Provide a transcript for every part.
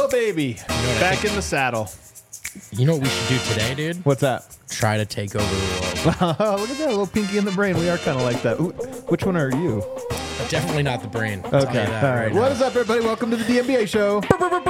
Oh, baby. Back in the saddle. You know what we should do today, dude? What's that? Try to take over the world. Look at that little pinky in the brain. We are kind of like that. Ooh, which one are you? Definitely not the brain. I'll tell you Okay. that All right. What is up, everybody? Welcome to the DNBA show.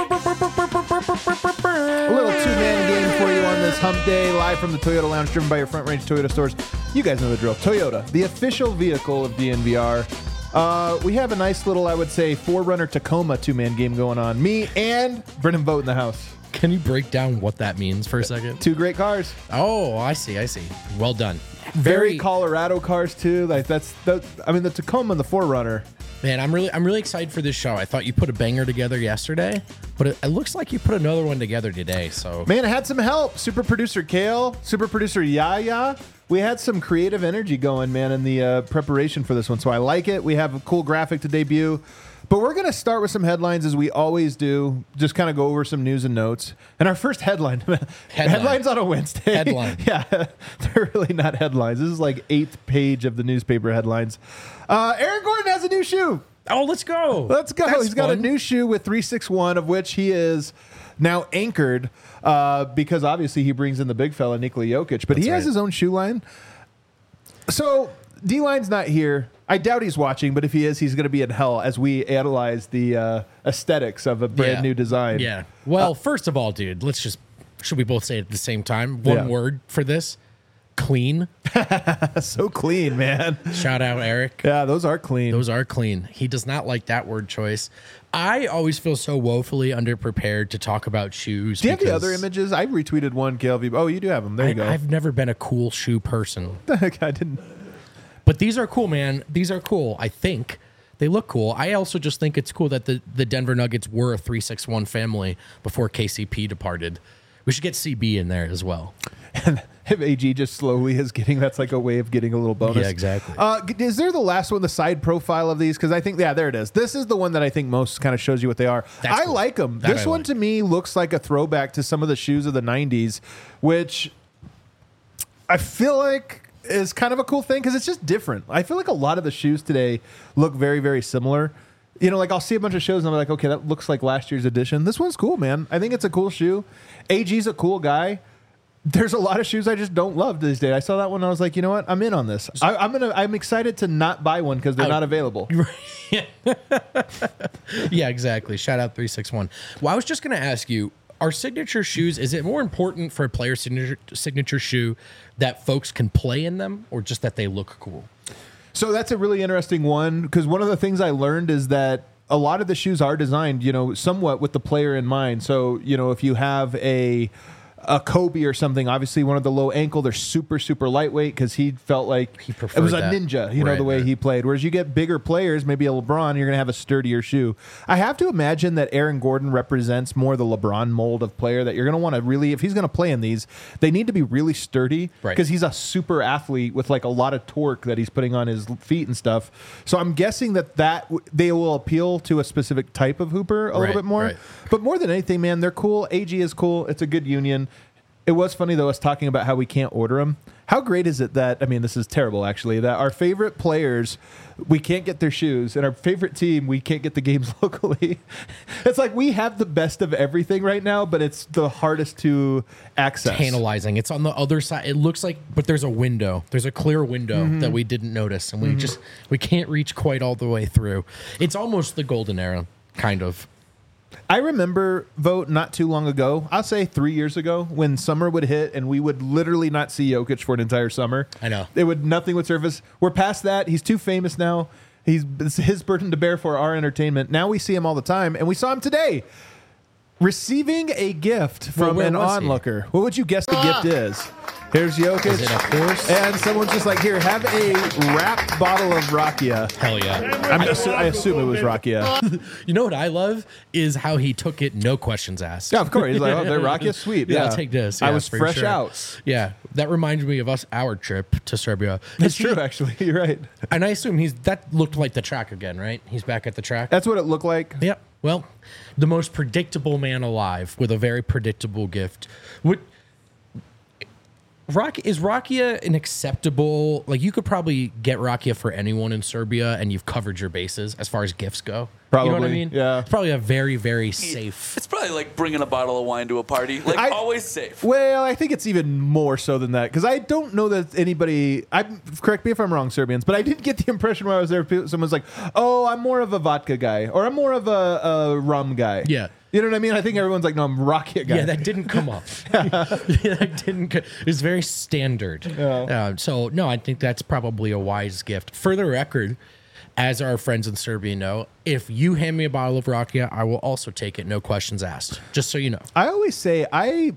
A little two-man game for you on this hump day, live from the Toyota Lounge, driven by your Front Range Toyota stores. You guys know the drill. Toyota, the official vehicle of DNVR. We have a nice little, I would say, 4Runner Tacoma two-man game going on. Me and Brennan Vogt in the house. Can you break down what that means for a second? Two great cars. Oh, I see. Well done. Very Colorado cars too. Like the Tacoma and the 4Runner. Man, I'm really excited for this show. I thought you put a banger together yesterday, but it looks like you put another one together today. So Man, I had some help. Super producer Kale, super producer Yaya. We had some creative energy going, man, in the preparation for this one. So I like it. We have a cool graphic to debut. But we're going to start with some headlines as we always do. Just kind of go over some news and notes. And our first headlines on a Wednesday. Headline. Yeah, they're really not headlines. This is like 8th page of the newspaper headlines. Aaron Gordon has a new shoe. Oh, let's go. Let's go. That's He's got a fun. new shoe with 361, of which he is now anchored because obviously he brings in the big fella, Nikola Jokic. But That's he has right. his own shoe line. So D-Line's not here. I doubt he's watching, but if he is, he's going to be in hell as we analyze the aesthetics of a brand new design. Yeah. Well, first of all, dude, should we both say it at the same time? One word for this. Clean. So clean, man. Shout out, Eric. Yeah, those are clean. Those are clean. He does not like that word choice. I always feel so woefully underprepared to talk about shoes. Do you have the other images? I retweeted one, KLV. Oh, you do have them. There you go. I've never been a cool shoe person. I didn't. But these are cool, man. These are cool. I think they look cool. I also just think it's cool that the Denver Nuggets were a 361 family before KCP departed. We should get CB in there as well. And if AG just slowly is getting, that's like a way of getting a little bonus. Yeah, exactly. Is there the last one, the side profile of these? Because I think, yeah, there it is. This is the one that I think most kind of shows you what they are. That's I cool. like them. That This I one like. to me looks like a throwback to some of the shoes of the 90s, which I feel like is kind of a cool thing because it's just different. I feel like a lot of the shoes today look very, very similar. You know, like I'll see a bunch of shows and I'm like, okay, that looks like last year's edition. This one's cool, man. I think it's a cool shoe. AG's a cool guy. There's a lot of shoes I just don't love these days. I saw that one and I was like, you know what? I'm in on this. I'm excited to not buy one because they're not available. Yeah, exactly. Shout out 361. Well, I was just going to ask you, are signature shoes, is it more important for a player's signature shoe that folks can play in them or just that they look cool? So that's a really interesting one because one of the things I learned is that a lot of the shoes are designed, you know, somewhat with the player in mind. So, you know, if you have a Kobe or something, obviously one of the low ankle, they're super, super lightweight because he felt like He it preferred was a that. ninja, you know, Right, the way right. he played. Whereas you get bigger players, maybe a LeBron, you're going to have a sturdier shoe. I have to imagine that Aaron Gordon represents more the LeBron mold of player that you're going to want to really, if he's going to play in these, they need to be really sturdy Right. because he's a super athlete with like a lot of torque that he's putting on his feet and stuff. So I'm guessing that they will appeal to a specific type of hooper a Right, little bit more. right. But more than anything, man, they're cool. AG is cool. It's a good union. It was funny, though, us talking about how we can't order them. How great is it that, I mean, this is terrible, actually, that our favorite players, we can't get their shoes, and our favorite team, we can't get the games locally. It's like we have the best of everything right now, but it's the hardest to access. Tantalizing. It's on the other side. It looks like, but there's a window. There's a clear window that we didn't notice, and we can't reach quite all the way through. It's almost the golden era, kind of. I remember, Vote, not too long ago, I'll say 3 years ago, when summer would hit and we would literally not see Jokic for an entire summer. I know. Nothing would surface. We're past that. He's too famous now. It's his burden to bear for our entertainment. Now we see him all the time, and we saw him today receiving a gift from where an was he? onlooker. What would you guess the gift is? Here's Jokic. Is it a horse? And someone's just like, here, have a wrapped bottle of Rakia. Hell yeah. I assume it was Rakia. You know what I love is how he took it, no questions asked. Yeah, of course. He's like, oh, they're Rakia? Sweet. Yeah, Yeah, I'll take this. I Yeah, was for fresh sure. out. Yeah, that reminds me of our trip to Serbia. That's true, actually. You're right. And I assume that looked like the track again, right? He's back at the track. That's what it looked like. Yep. Well, the most predictable man alive with a very predictable gift. Is Rakia an acceptable? Like, you could probably get Rakia for anyone in Serbia, and you've covered your bases as far as gifts go. You know what I Probably, mean? yeah. It's probably a very, very safe. It's probably like bringing a bottle of wine to a party. Like, always safe. Well, I think it's even more so than that because I don't know that anybody. Correct me if I'm wrong, Serbians, but I didn't get the impression when I was there. Someone's like, "Oh, I'm more of a vodka guy," or "I'm more of a rum guy." Yeah. You know what I mean? I think everyone's like, "No, I'm Rakia guy." Yeah, that didn't come up. That didn't. It's very standard. So no, I think that's probably a wise gift. For the record, as our friends in Serbia know, if you hand me a bottle of Rakia, I will also take it, no questions asked. Just so you know. I always say I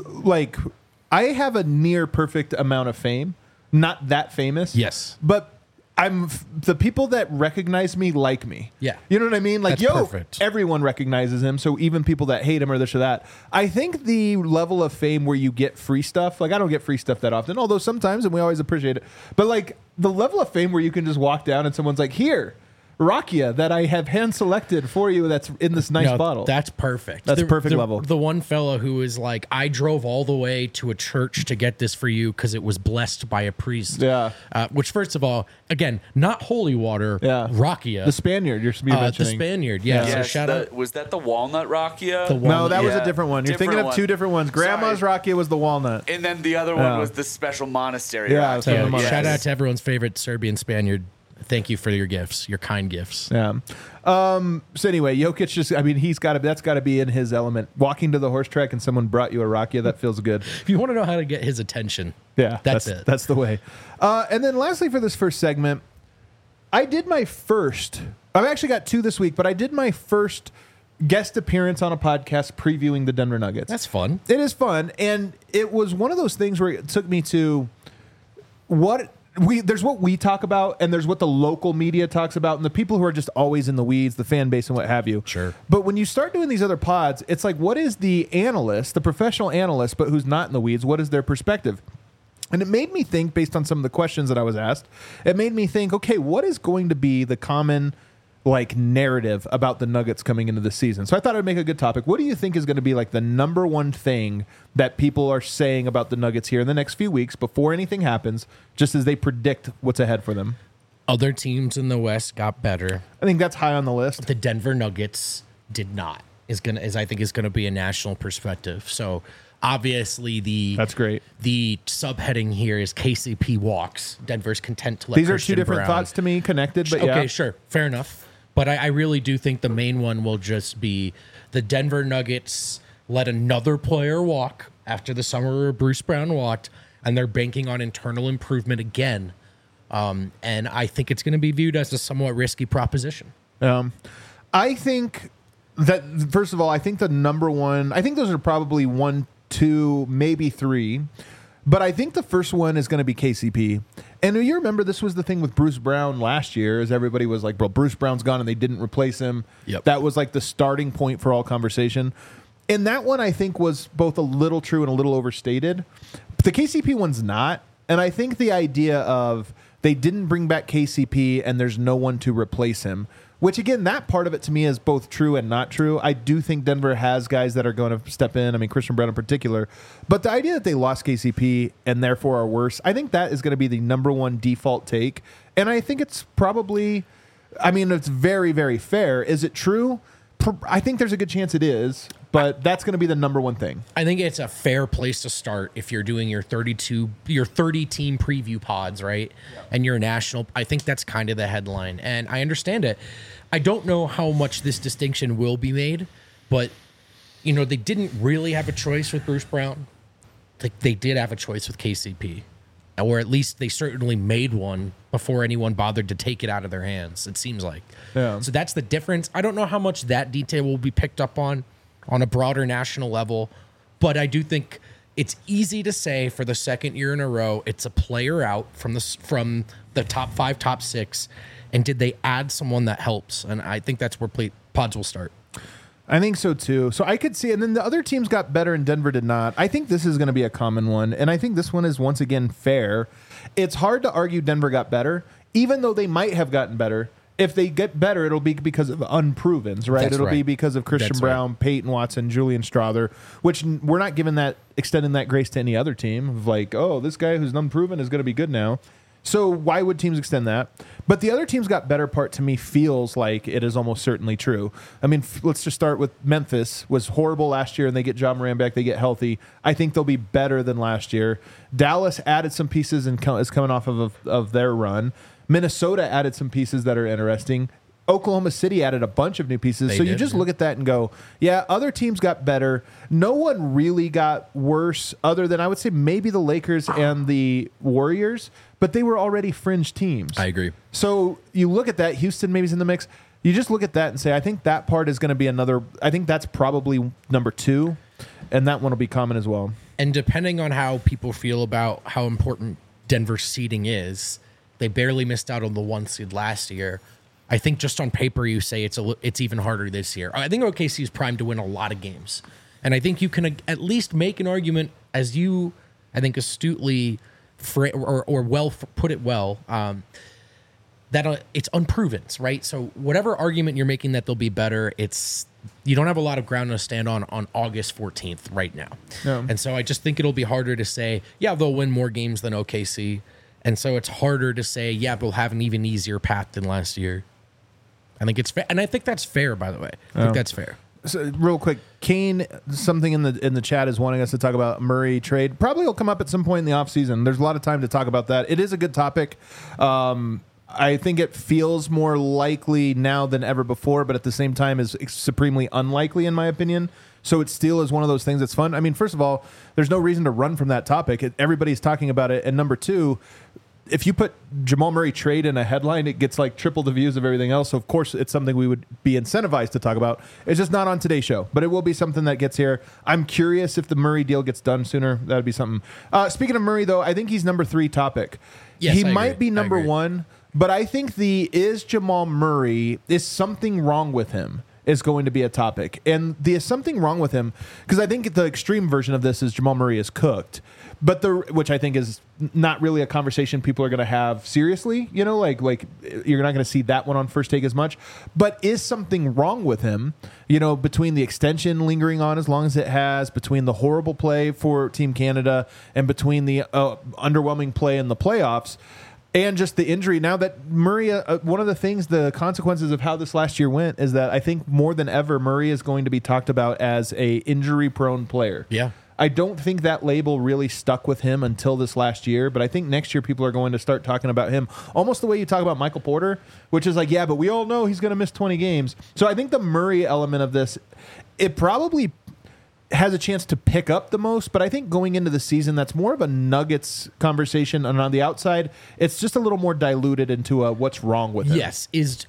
have a near perfect amount of fame. Not that famous. Yes. But the people that recognize me like me. Yeah. You know what I mean? Like, That's perfect. everyone recognizes him. So even people that hate him or this or that. I think the level of fame where you get free stuff, like I don't get free stuff that often, although sometimes, and we always appreciate it. But like the level of fame where you can just walk down and someone's like, here, Rakia that I have hand selected for you that's in this nice bottle. That's perfect. That's perfect level. The one fellow who was like, I drove all the way to a church to get this for you because it was blessed by a priest. Yeah. Which, first of all, again, not holy water. Yeah. Rakia. The Spaniard you're The mentioning. Spaniard. Yeah. So Yes, shout out. was that the walnut Rakia? No, that was Yeah, a different one. You're different thinking of one. two different ones. Grandma's Sorry. Rakia was the walnut. And then the other one was the special monastery. Yeah, Rakia. so So Yes. shout out to everyone's favorite Serbian Spaniard. Thank you for your gifts, your kind gifts. Yeah. So anyway, Jokic that's got to be in his element. Walking to the horse track and someone brought you a Rakia, that feels good. If you want to know how to get his attention, Yeah, that's it. That's the way. And then lastly for this first segment, I've actually got two this week, but I did my first guest appearance on a podcast previewing the Denver Nuggets. That's fun. It is fun, and it was one of those things where it took me to there's what we talk about, and there's what the local media talks about, and the people who are just always in the weeds, the fan base and what have you. Sure. But when you start doing these other pods, it's like, what is the analyst, the professional analyst, but who's not in the weeds? What is their perspective? And it made me think, based on some of the questions that I was asked, it made me think, okay, what is going to be the common narrative about the Nuggets coming into the season? So I thought I'd make a good topic. What do you think is going to be like the number one thing that people are saying about the Nuggets here in the next few weeks before anything happens, just as they predict what's ahead for them? Other teams in the West got better. I think that's high on the list. The Denver Nuggets did not. I think is going to be a national perspective. So obviously That's great. The subheading here is KCP walks. Denver's content to let These are Christian two different Brown. thoughts to me, connected, but Okay, yeah. sure, fair enough. But I really do think the main one will just be the Denver Nuggets let another player walk after the summer where Bruce Brown walked, and they're banking on internal improvement again. And I think it's going to be viewed as a somewhat risky proposition. I think that, first of all, I think the number one, I think those are probably 1, 2, maybe 3. But I think the first one is going to be KCP. And you remember this was the thing with Bruce Brown last year, as everybody was like, bro, Bruce Brown's gone and they didn't replace him. Yep. That was like the starting point for all conversation. And that one I think was both a little true and a little overstated. But the KCP one's not. And I think the idea of they didn't bring back KCP and there's no one to replace him, which, again, that part of it to me is both true and not true. I do think Denver has guys that are going to step in. I mean, Christian Brown in particular. But the idea that they lost KCP and therefore are worse, I think that is going to be the number one default take. And I think it's probably, it's very, very fair. Is it true? I think there's a good chance it is, but that's going to be the number one thing. I think it's a fair place to start if you're doing your 30 team preview pods, right? Yeah. And you're national. I think that's kind of the headline. And I understand it. I don't know how much this distinction will be made, but they didn't really have a choice with Bruce Brown. Like, they did have a choice with KCP, or at least they certainly made one before anyone bothered to take it out of their hands, it seems like. Yeah. So that's the difference. I don't know how much that detail will be picked up on a broader national level, but I do think it's easy to say for the second year in a row, it's a player out from the top 5, top 6, and did they add someone that helps? And I think that's where pods will start. I think so too. So I could see, and then the other teams got better and Denver did not. I think this is going to be a common one, and I think this one is once again fair. It's hard to argue Denver got better, even though they might have gotten better. If they get better, it'll be because of unprovens, right? That's It'll be right. because of Christian That's Brown, right. Peyton Watson, Julian Strother, which we're not extending that grace to any other team of like, oh, this guy who's unproven is going to be good now. So why would teams extend that? But the other teams got better part to me feels like it is almost certainly true. I mean, let's just start with Memphis. Was horrible last year, and they get Ja Morant back. They get healthy. I think they'll be better than last year. Dallas added some pieces and is coming off of their run. Minnesota added some pieces that are interesting. Oklahoma City added a bunch of new pieces. You just look at that and go, yeah, other teams got better. No one really got worse other than I would say maybe the Lakers and the Warriors, but they were already fringe teams. I agree. So you look at that, Houston maybe is in the mix. You just look at that and say, I think that part is going to be another, I think that's probably number 2, and that one will be common as well. And depending on how people feel about how important Denver's seeding is, they barely missed out on the 1 seed last year. I think just on paper you say it's even harder this year. I think OKC is primed to win a lot of games. And I think you can at least make an argument, as you, I think, astutely or well put it well, that it's unproven, right? So whatever argument you're making that they'll be better, you don't have a lot of ground to stand on August 14th right now. No. And so I just think it'll be harder to say, yeah, they'll win more games than OKC. And so it's harder to say, yeah, they'll have an even easier path than last year. I think it's fair, and I think that's fair. By the way, I think that's fair. So, real quick, Kane, something in the chat is wanting us to talk about Murray trade. Probably will come up at some point in the offseason. There's a lot of time to talk about that. It is a good topic. I think it feels more likely now than ever before, but at the same time is supremely unlikely in my opinion. So it still is one of those things that's fun. I mean, first of all, there's no reason to run from that topic. Everybody's talking about it. And number 2, if you put Jamal Murray trade in a headline, it gets like triple the views of everything else. So, of course, it's something we would be incentivized to talk about. It's just not on today's show, but it will be something that gets here. I'm curious if the Murray deal gets done sooner. That would be something. Speaking of Murray, though, I think he's number 3 topic. Yes, he I might agree. be number 1, but I think is Jamal Murray, is something wrong with him? Is going to be a topic. And is something wrong with him, because I think the extreme version of this is Jamal Murray is cooked. But which I think is not really a conversation people are going to have seriously, like you're not going to see that one on First Take as much. But is something wrong with him, between the extension lingering on as long as it has, between the horrible play for Team Canada, and between the underwhelming play in the playoffs, and just the injury. Now that Murray, one of the consequences of how this last year went is that I think more than ever, Murray is going to be talked about as a injury-prone player. Yeah. I don't think that label really stuck with him until this last year, but I think next year people are going to start talking about him almost the way you talk about Michael Porter, which is like, yeah, but we all know he's going to miss 20 games. So I think the Murray element of this, it probably has a chance to pick up the most, but I think going into the season, that's more of a Nuggets conversation, and on the outside, it's just a little more diluted into what's wrong with him. Yes. Is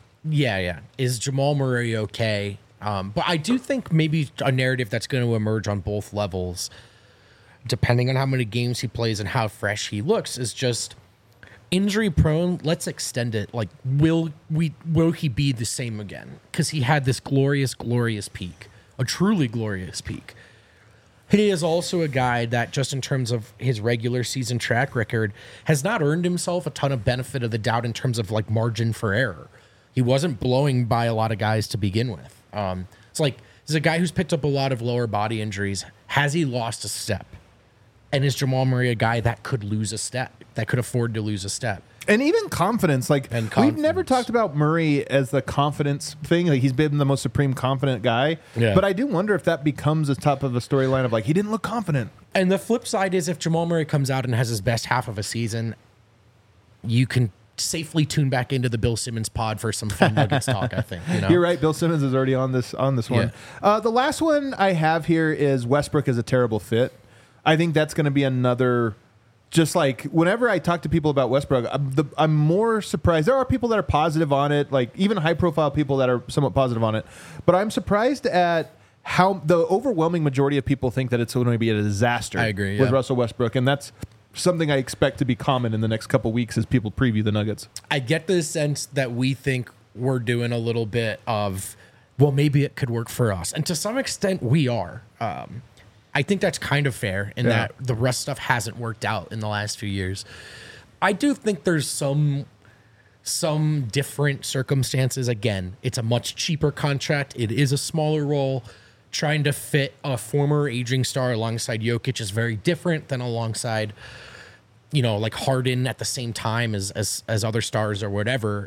Jamal Murray okay? But I do think maybe a narrative that's going to emerge on both levels, depending on how many games he plays and how fresh he looks, is just injury prone. Let's extend it. Like, will he be the same again? Because he had this glorious, glorious peak, a truly glorious peak. He is also a guy that, just in terms of his regular season track record, has not earned himself a ton of benefit of the doubt in terms of like margin for error. He wasn't blowing by a lot of guys to begin with. It's like, he's a guy who's picked up a lot of lower body injuries. Has he lost a step? And is Jamal Murray a guy that could lose a step, that could afford to lose a step? And even confidence. We've never talked about Murray as the confidence thing. Like, he's been the most supreme confident guy. Yeah. But I do wonder if that becomes a top of a storyline of like, he didn't look confident. And the flip side is if Jamal Murray comes out and has his best half of a season, you can safely tune back into the Bill Simmons pod for some fun Nuggets talk, I think. You're right. Bill Simmons is already on this one. Yeah. The last one I have here is Westbrook is a terrible fit. I think that's going to be another, just like whenever I talk to people about Westbrook, I'm more surprised. There are people that are positive on it, like even high profile people that are somewhat positive on it. But I'm surprised at how the overwhelming majority of people think that it's going to be a disaster. I agree, with Russell Westbrook. And that's something I expect to be common in the next couple weeks as people preview the Nuggets. I get the sense that we think we're doing a little bit of, well, maybe it could work for us. And to some extent, we are. I think that's kind of fair in that the Russ stuff hasn't worked out in the last few years. I do think there's some different circumstances. Again, it's a much cheaper contract. It is a smaller role. Trying to fit a former aging star alongside Jokic is very different than alongside like Harden at the same time as other stars or whatever.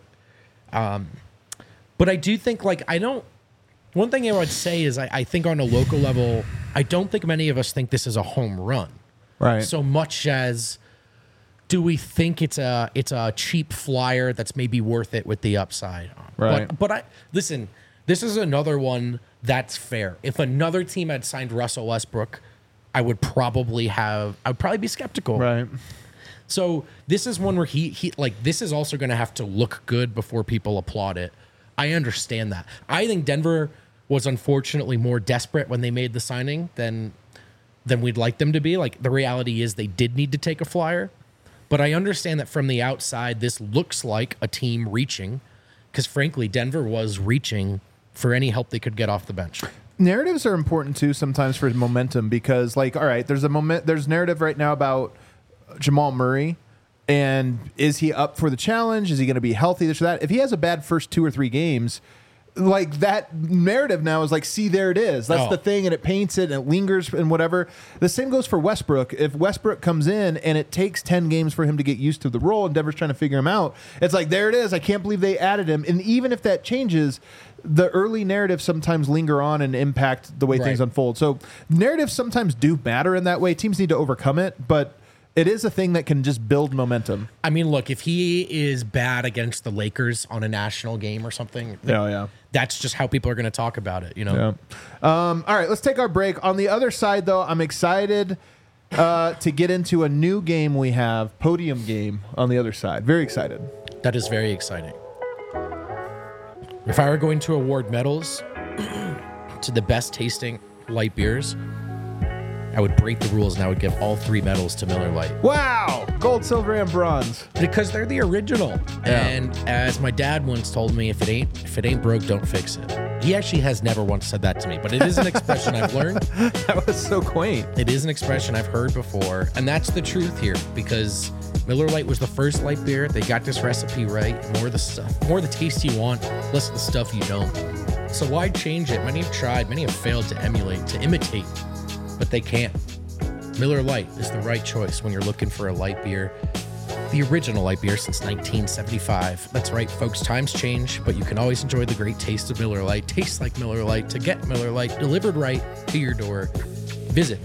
But I do think one thing I would say is I think on a local level, I don't think many of us think this is a home run. Right. So much as do we think it's a cheap flyer that's maybe worth it with the upside. Right. But listen, this is another one that's fair. If another team had signed Russell Westbrook, I would probably be skeptical. Right. So this is one where he this is also going to have to look good before people applaud it. I understand that. I think Denver was unfortunately more desperate when they made the signing than we'd like them to be. Like, the reality is they did need to take a flyer, but I understand that from the outside, this looks like a team reaching, because frankly, Denver was reaching for any help they could get off the bench. Narratives are important too sometimes for momentum, because all right, there's narrative right now about Jamal Murray, and is he up for the challenge? Is he going to be healthy? This or that. If he has a bad first 2 or 3 games, that narrative now is see, there it is. That's the thing, and it paints it, and it lingers, and whatever. The same goes for Westbrook. If Westbrook comes in and it takes 10 games for him to get used to the role, and Denver's trying to figure him out, it's there it is. I can't believe they added him. And even if that changes, the early narratives sometimes linger on and impact the way things unfold. So narratives sometimes do matter in that way. Teams need to overcome it, but it is a thing that can just build momentum. I mean, look, if he is bad against the Lakers on a national game or something, that's just how people are going to talk about it, Yeah. All right, let's take our break. On the other side, though, I'm excited to get into a new game we have, Podium Game, on the other side. Very excited. That is very exciting. If I were going to award medals to the best tasting light beers, I would break the rules and I would give all 3 medals to Miller Lite. Wow! Gold, silver, and bronze. Because they're the original. Yeah. And as my dad once told me, if it ain't broke, don't fix it. He actually has never once said that to me, but it is an expression I've learned. That was so quaint. It is an expression I've heard before, and that's the truth here, because Miller Lite was the first light beer. They got this recipe right. More of the stuff, more of the taste you want, less of the stuff you don't. So why change it? Many have tried, many have failed to emulate, to imitate, but they can't. Miller Lite is the right choice when you're looking for a light beer. The original light beer since 1975. That's right, folks, times change, but you can always enjoy the great taste of Miller Lite. Tastes like Miller Lite. To get Miller Lite delivered right to your door, visit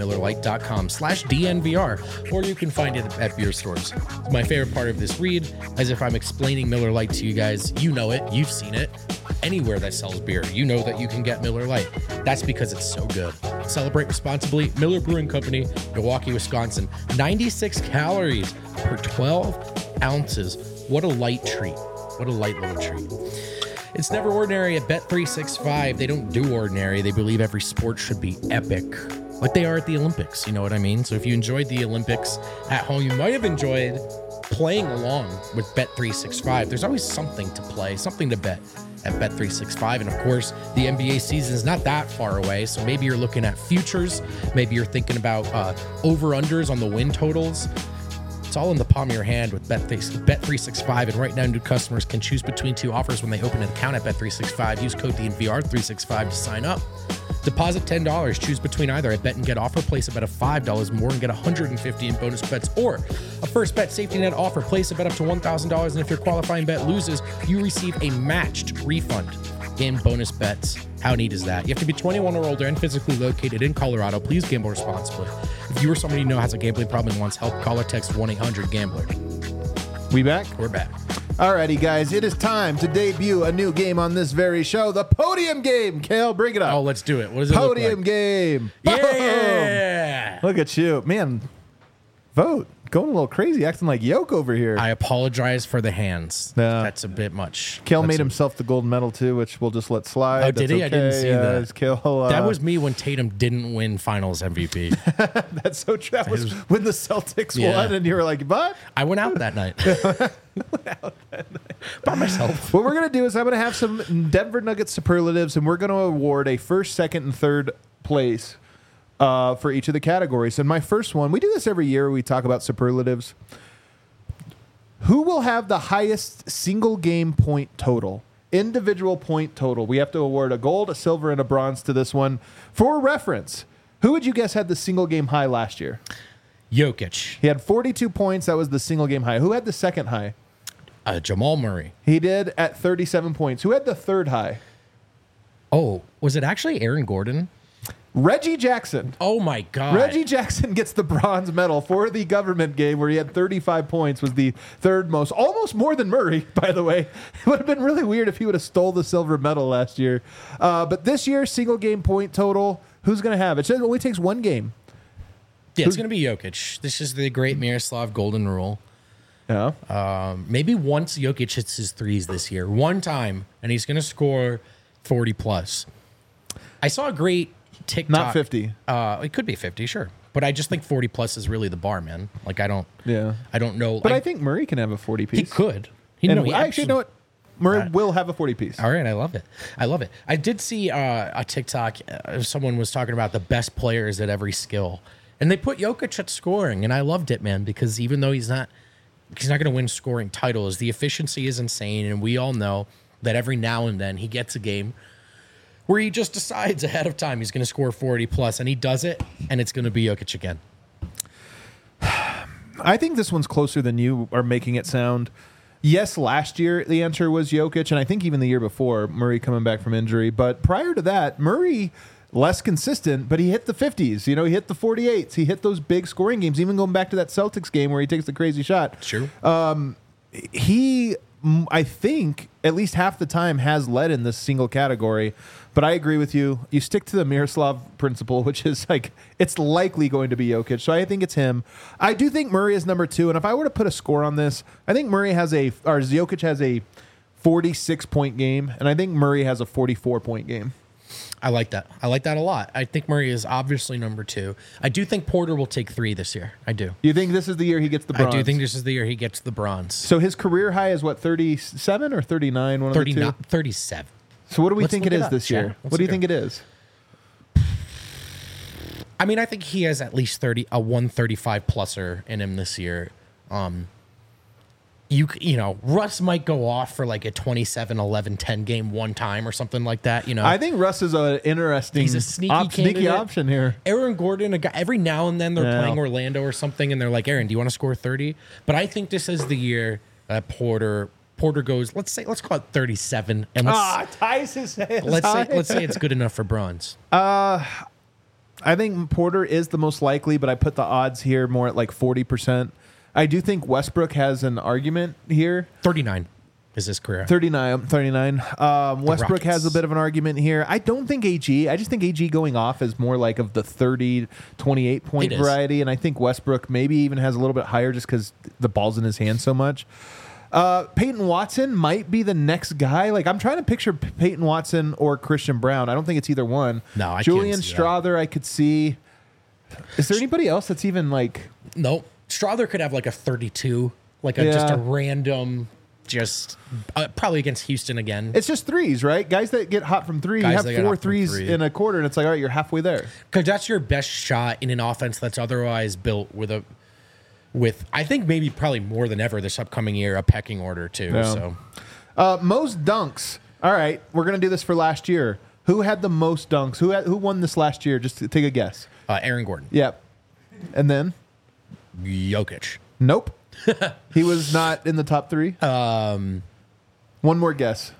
MillerLite.com/DNVR, or you can find it at beer stores. My favorite part of this read, as if I'm explaining Miller Lite to you guys. You know it. You've seen it. Anywhere that sells beer, you know that you can get Miller Lite. That's because it's so good. Celebrate responsibly. Miller Brewing Company, Milwaukee, Wisconsin. 96 calories per 12 ounces. What a light treat. What a light little treat. It's never ordinary at Bet365. They don't do ordinary. They believe every sport should be epic, like they are at the Olympics. You know what I mean? So if you enjoyed the Olympics at home, you might have enjoyed playing along with Bet365. There's always something to play, something to bet at Bet365. And of course, the NBA season is not that far away. So maybe you're looking at futures. Maybe you're thinking about over-unders on the win totals. It's all in the palm of your hand with Bet365. And right now, new customers can choose between 2 offers when they open an account at Bet365. Use code DNVR365 to sign up. Deposit $10. Choose between either a bet and get offer. Place a bet of $5 more and get $150 in bonus bets, or a first bet safety net offer. Place a bet up to $1,000, and if your qualifying bet loses, you receive a matched refund in bonus bets. How neat is that? You have to be 21 or older and physically located in Colorado. Please gamble responsibly. If you or somebody you know has a gambling problem and wants help, call or text 1-800-GAMBLER. We back? We're back. Alrighty, guys, it is time to debut a new game on this very show, the Podium Game. Kale, bring it up. Oh, let's do it. What does it Podium look like? Game. Yeah. Look at you. Man, vote. Going a little crazy, acting like Yoke over here. I apologize for the hands. Yeah. That's a bit much. Kale made himself the gold medal, too, which we'll just let slide. Oh, did he? I didn't see that. It's Kale, that was me when Tatum didn't win finals MVP. That's so true. That was when the Celtics won, and you were like, but? I went out that night. By myself. What we're going to do is I'm going to have some Denver Nuggets superlatives, and we're going to award a first, second, and third place for each of the categories. And my first one, we do this every year. We talk about superlatives. Who will have the highest single game point total? Individual point total. We have to award a gold, a silver, and a bronze to this one. For reference, who would you guess had the single game high last year? Jokic. He had 42 points. That was the single game high. Who had the second high? Jamal Murray. He did at 37 points. Who had the third high? Oh, was it actually Aaron Gordon? Reggie Jackson. Oh, my God. Reggie Jackson gets the bronze medal for the government game where he had 35 points, was the third most, almost more than Murray, by the way. It would have been really weird if he would have stole the silver medal last year. But this year, single game point total, who's going to have? It says it only takes one game. Yeah, it's going to be Jokic. This is the great Miroslav Golden Rule. Yeah. Maybe once Jokic hits his threes this year, one time, and he's going to score 40 plus. I saw a great TikTok. Not 50. It could be 50, sure. But I just think 40 plus is really the bar, man. Like, I don't know. But I think Murray can have a 40 piece. He could. I actually know what. Murray will have a 40 piece. All right, I love it. I did see a TikTok. Someone was talking about the best players at every skill, and they put Jokic at scoring, and I loved it, man, because even though he's not going to win scoring titles, the efficiency is insane, and we all know that every now and then he gets a game where he just decides ahead of time he's going to score 40 plus, and he does it, and it's going to be Jokic again. I think this one's closer than you are making it sound. Yes, last year the answer was Jokic, and I think even the year before, Murray coming back from injury. But prior to that, Murray, less consistent, but he hit the 50s. You know, he hit the 48s. He hit those big scoring games, even going back to that Celtics game where he takes the crazy shot. Sure. He, I think, at least half the time has led in this single category. But I agree with you. You stick to the Miroslav principle, which is like it's likely going to be Jokic. So I think it's him. I do think Murray is number 2. And if I were to put a score on this, I think Jokic has a 46-point game, and I think Murray has a 44-point game. I like that. I like that a lot. I think Murray is obviously number 2. I do think Porter will take 3 this year. I do. You think this is the year he gets the bronze? I do think this is the year he gets the bronze. So his career high is what, 37 or 39? One of the two? 37. So what do we Let's think look it it is up, this Chad. year? Let's What do you look think it is? I mean, I think he has at least 135 pluser in him this year. You know, Russ might go off for like a 27, 11, 10 game one time or something like that. You know, I think Russ is an interesting he's a sneaky option here. Aaron Gordon, a guy, every now and then they're playing Orlando or something, and they're like, Aaron, do you want to score 30? But I think this is the year that Porter goes. Let's call it 37, and ties his hands. let's say it's good enough for bronze. I think Porter is the most likely, but I put the odds here more at like 40%. I do think Westbrook has an argument here. 39 is his career. 39. Westbrook Rockets. has a bit of an argument here. I don't think AG. I just think AG going off is more like of the 30, 28 point variety. And I think Westbrook maybe even has a little bit higher just because the ball's in his hand so much. Peyton Watson might be the next guy. Like, I'm trying to picture Peyton Watson or Christian Brown. I don't think it's either one. No, I Julian can't see Strawther, I could see. Is there anybody else that's even like? Nope. Strawther could have like a 32, like just a random, probably against Houston again. It's just threes, right? Guys that get hot from three. You have 4 threes in a quarter, and it's like, all right, you're halfway there. Because that's your best shot in an offense that's otherwise built with I think maybe probably more than ever this upcoming year, a pecking order too. Yeah. So most dunks. All right, we're gonna do this for last year. Who had the most dunks? Who won this last year? Just to take a guess. Aaron Gordon. Yep. And then Jokic. Nope. He was not in the top 3. One more guess.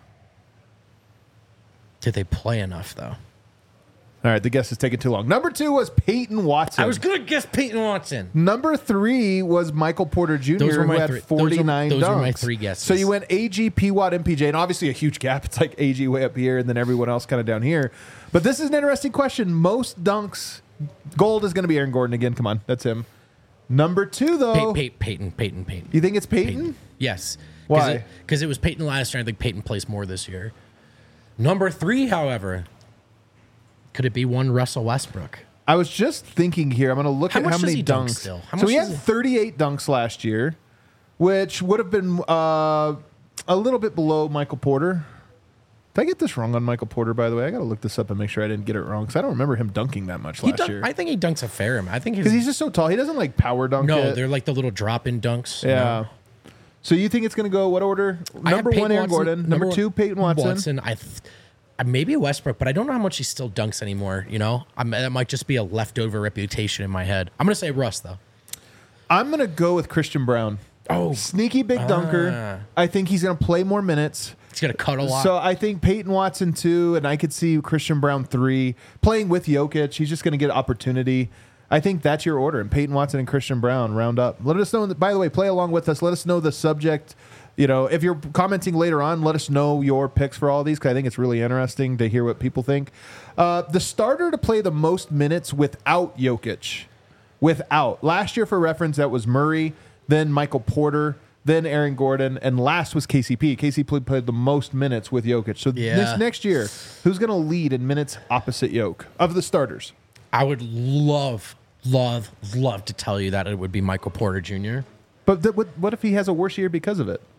Did they play enough though? All right, the guess is taking too long. Number 2 was Peyton Watson. I was going to guess Peyton Watson. Number 3 was Michael Porter Jr., who had 49 dunks. Those were my 3 guesses. So you went AG, P. Watt, MPJ, and obviously a huge gap. It's like AG way up here and then everyone else kind of down here. But this is an interesting question. Most dunks, gold is going to be Aaron Gordon again. Come on, that's him. Number 2, though. Peyton. You think it's Peyton? Yes. Why? Because it was Peyton last year. I think Peyton plays more this year. Number 3, however, could it be one Russell Westbrook? I was just thinking here. I'm going to look at how many dunks. Still? So he had 38 dunks last year, which would have been a little bit below Michael Porter. Did I get this wrong on Michael Porter, by the way? I got to look this up and make sure I didn't get it wrong because I don't remember him dunking that much last year. I think he dunks a fair amount. I think because he's just so tall. He doesn't like power dunk. No, they're like the little drop-in dunks. Yeah. No. So you think it's going to go what order? Number 1, Aaron Gordon. Number 2, Peyton Watson. Maybe Westbrook, but I don't know how much he still dunks anymore. You know, that might just be a leftover reputation in my head. I'm going to say Russ though. I'm going to go with Christian Brown. Oh, Sneaky big dunker. I think he's going to play more minutes. he's gonna cut a lot. So I think Peyton Watson 2, and I could see Christian Brown 3 playing with Jokic. He's just going to get opportunity. I think that's your order. And Peyton Watson and Christian Brown round up. Let us know. By the way, play along with us. Let us know the subject. You know, if you're commenting later on, let us know your picks for all these because I think it's really interesting to hear what people think. The starter to play the most minutes without Jokic. Last year, for reference, that was Murray, then Michael Porter, then Aaron Gordon, and last was KCP. KCP played the most minutes with Jokic. So this next year, who's going to lead in minutes opposite Jokic of the starters? I would love to tell you that it would be Michael Porter Jr. But what if he has a worse year because of it?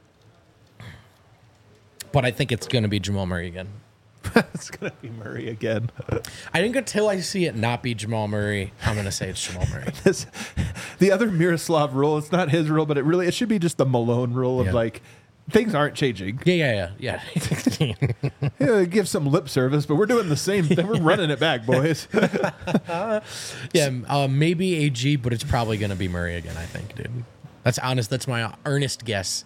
But I think it's going to be Jamal Murray again. It's going to be Murray again. I think until I see it not be Jamal Murray, I'm going to say it's Jamal Murray. The other Miroslav rule, it's not his rule, but it should be just the Malone rule of like, things aren't changing. Yeah. Give some lip service, but we're doing the same thing. We're running it back, boys. Maybe AG, but it's probably going to be Murray again, I think, dude. That's honest. That's my earnest guess.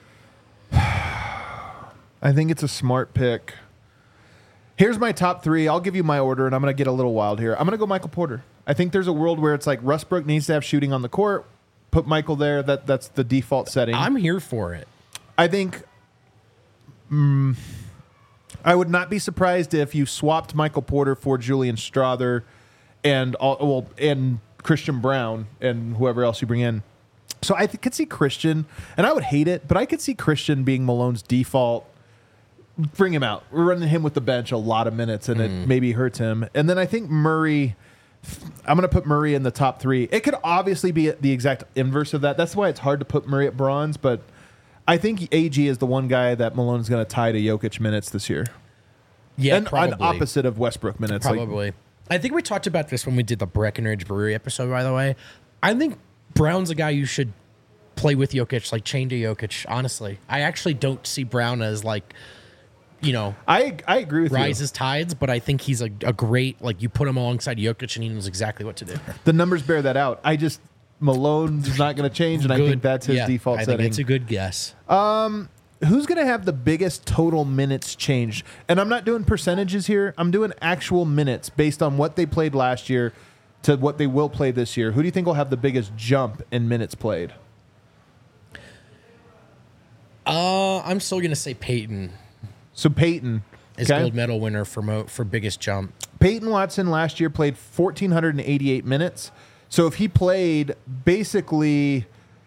I think it's a smart pick. Here's my top 3. I'll give you my order, and I'm going to get a little wild here. I'm going to go Michael Porter. I think there's a world where it's like Westbrook needs to have shooting on the court. Put Michael there. That's the default setting. I'm here for it. I think I would not be surprised if you swapped Michael Porter for Julian Strawther and Christian Brown and whoever else you bring in. So I could see Christian, and I would hate it, but I could see Christian being Malone's default. Bring him out. We're running him with the bench a lot of minutes, and it maybe hurts him. And then I think Murray, I'm going to put Murray in the top 3. It could obviously be the exact inverse of that. That's why it's hard to put Murray at bronze, but I think AG is the one guy that Malone's going to tie to Jokic minutes this year. Yeah, and probably. An opposite of Westbrook minutes. Probably. I think we talked about this when we did the Breckenridge Brewery episode, by the way. I think Brown's a guy you should play with Jokic, like chain to Jokic, honestly. I actually don't see Brown as like, you know, I agree with rises tides, but I think he's a great, like, you put him alongside Jokic and he knows exactly what to do. The numbers bear that out. Malone's not going to change, and I think that's his default setting. I think it's a good guess. Who's going to have the biggest total minutes change? And I'm not doing percentages here. I'm doing actual minutes based on what they played last year to what they will play this year. Who do you think will have the biggest jump in minutes played? I'm still going to say Peyton. So Peyton is gold medal winner for biggest jump. Peyton Watson last year played 1,488 minutes. So if he played basically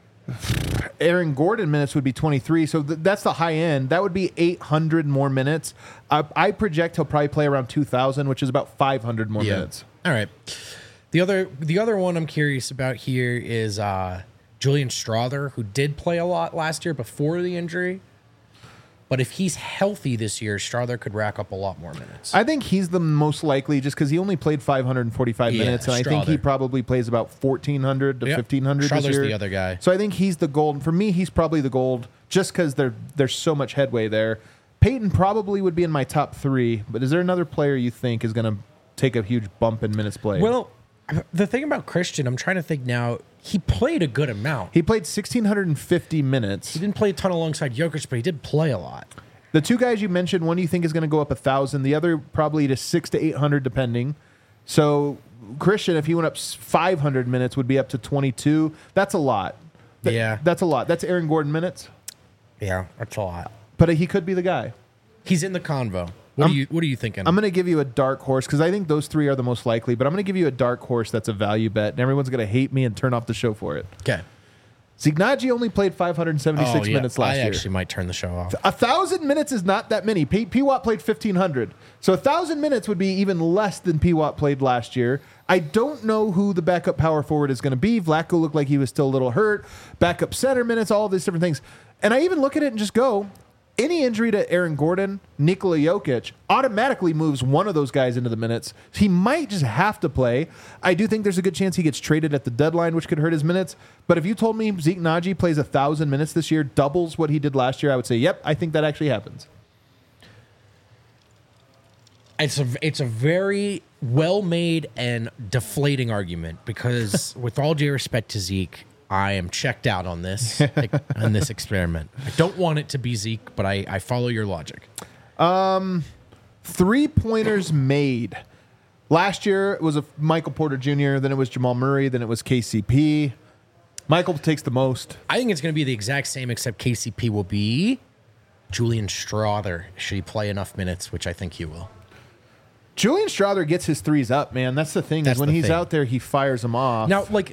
Aaron Gordon minutes would be 23. So that's the high end. That would be 800 more minutes. I project he'll probably play around 2,000, which is about 500 more minutes. All right. The other one I'm curious about here is Julian Strawther, who did play a lot last year before the injury. But if he's healthy this year, Strawther could rack up a lot more minutes. I think he's the most likely just because he only played 545 minutes, and I think he probably plays about 1,400 to 1,500 this year. Strawther's the other guy. So I think he's the gold. For me, he's probably the gold just because there's so much headway there. Peyton probably would be in my top 3, but is there another player you think is going to take a huge bump in minutes played? Well, the thing about Christian, I'm trying to think now, he played a good amount. He played 1,650 minutes. He didn't play a ton alongside Jokic, but he did play a lot. The two guys you mentioned, one you think is going to go up 1,000, the other probably to 600 to 800 depending. So Christian, if he went up 500 minutes, would be up to 22. That's a lot. That's a lot. That's Aaron Gordon minutes. Yeah, that's a lot. But he could be the guy. He's in the convo. What are you thinking? I'm going to give you a dark horse because I think those 3 are the most likely, but I'm going to give you a dark horse that's a value bet, and everyone's going to hate me and turn off the show for it. Okay. Zignagi only played 576 minutes last year. I actually might turn the show off. 1,000 minutes is not that many. P-Watt played 1,500. So 1,000 minutes would be even less than P-Watt played last year. I don't know who the backup power forward is going to be. Vlatko looked like he was still a little hurt. Backup center minutes, all these different things. And I even look at it and just go, any injury to Aaron Gordon, Nikola Jokic, automatically moves one of those guys into the minutes. He might just have to play. I do think there's a good chance he gets traded at the deadline, which could hurt his minutes. But if you told me Zeke Naji plays 1,000 minutes this year, doubles what he did last year, I would say, yep, I think that actually happens. It's a very well-made and deflating argument because with all due respect to Zeke, I am checked out on this on this experiment. I don't want it to be Zeke, but I follow your logic. 3-pointers made. Last year it was a Michael Porter Jr., then it was Jamal Murray, then it was KCP. Michael takes the most. I think it's going to be the exact same, except KCP will be Julian Strawther. Should he play enough minutes, which I think he will. Julian Strawther gets his threes up, man. That's the thing. When he's out there, he fires them off. Now, like,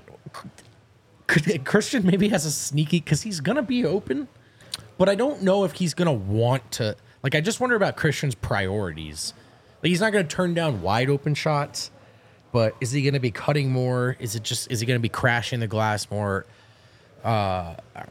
Christian maybe has a sneaky, because he's going to be open, but I don't know if he's going to want to. Like, I just wonder about Christian's priorities. Like, he's not going to turn down wide open shots, but is he going to be cutting more? Is he going to be crashing the glass more? I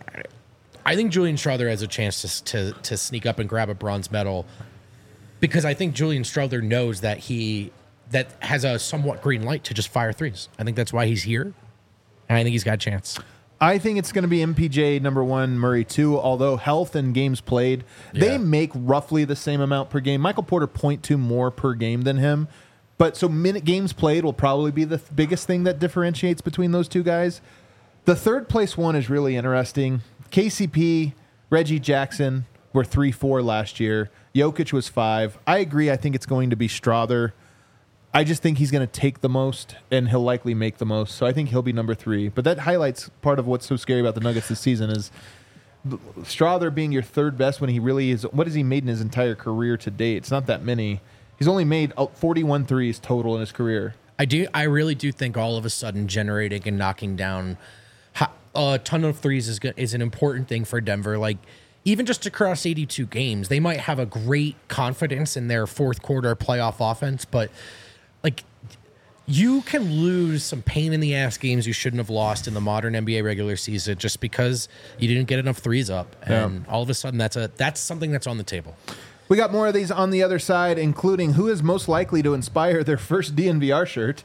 think Julian Strawther has a chance to sneak up and grab a bronze medal, because I think Julian Strawther knows that that has a somewhat green light to just fire threes. I think that's why he's here, and I think he's got a chance. I think it's going to be MPJ number 1, Murray 2, although health and games played, they make roughly the same amount per game. Michael Porter 0.2 more per game than him. But so games played will probably be the biggest thing that differentiates between those two guys. The third place one is really interesting. KCP, Reggie Jackson were 3-4 last year. Jokic was 5. I agree. I think it's going to be Strawther. I just think he's going to take the most, and he'll likely make the most. So I think he'll be number 3. But that highlights part of what's so scary about the Nuggets this season is Strawther being your third best when he really is. What has he made in his entire career to date? It's not that many. He's only made 41 threes total in his career. I really do think all of a sudden generating and knocking down a ton of threes is an important thing for Denver. Like, even just across 82 games, they might have a great confidence in their fourth quarter playoff offense, but like, you can lose some pain in the ass games you shouldn't have lost in the modern NBA regular season just because you didn't get enough threes up, and all of a sudden that's something that's on the table. We got more of these on the other side, including who is most likely to inspire their first DNVR shirt.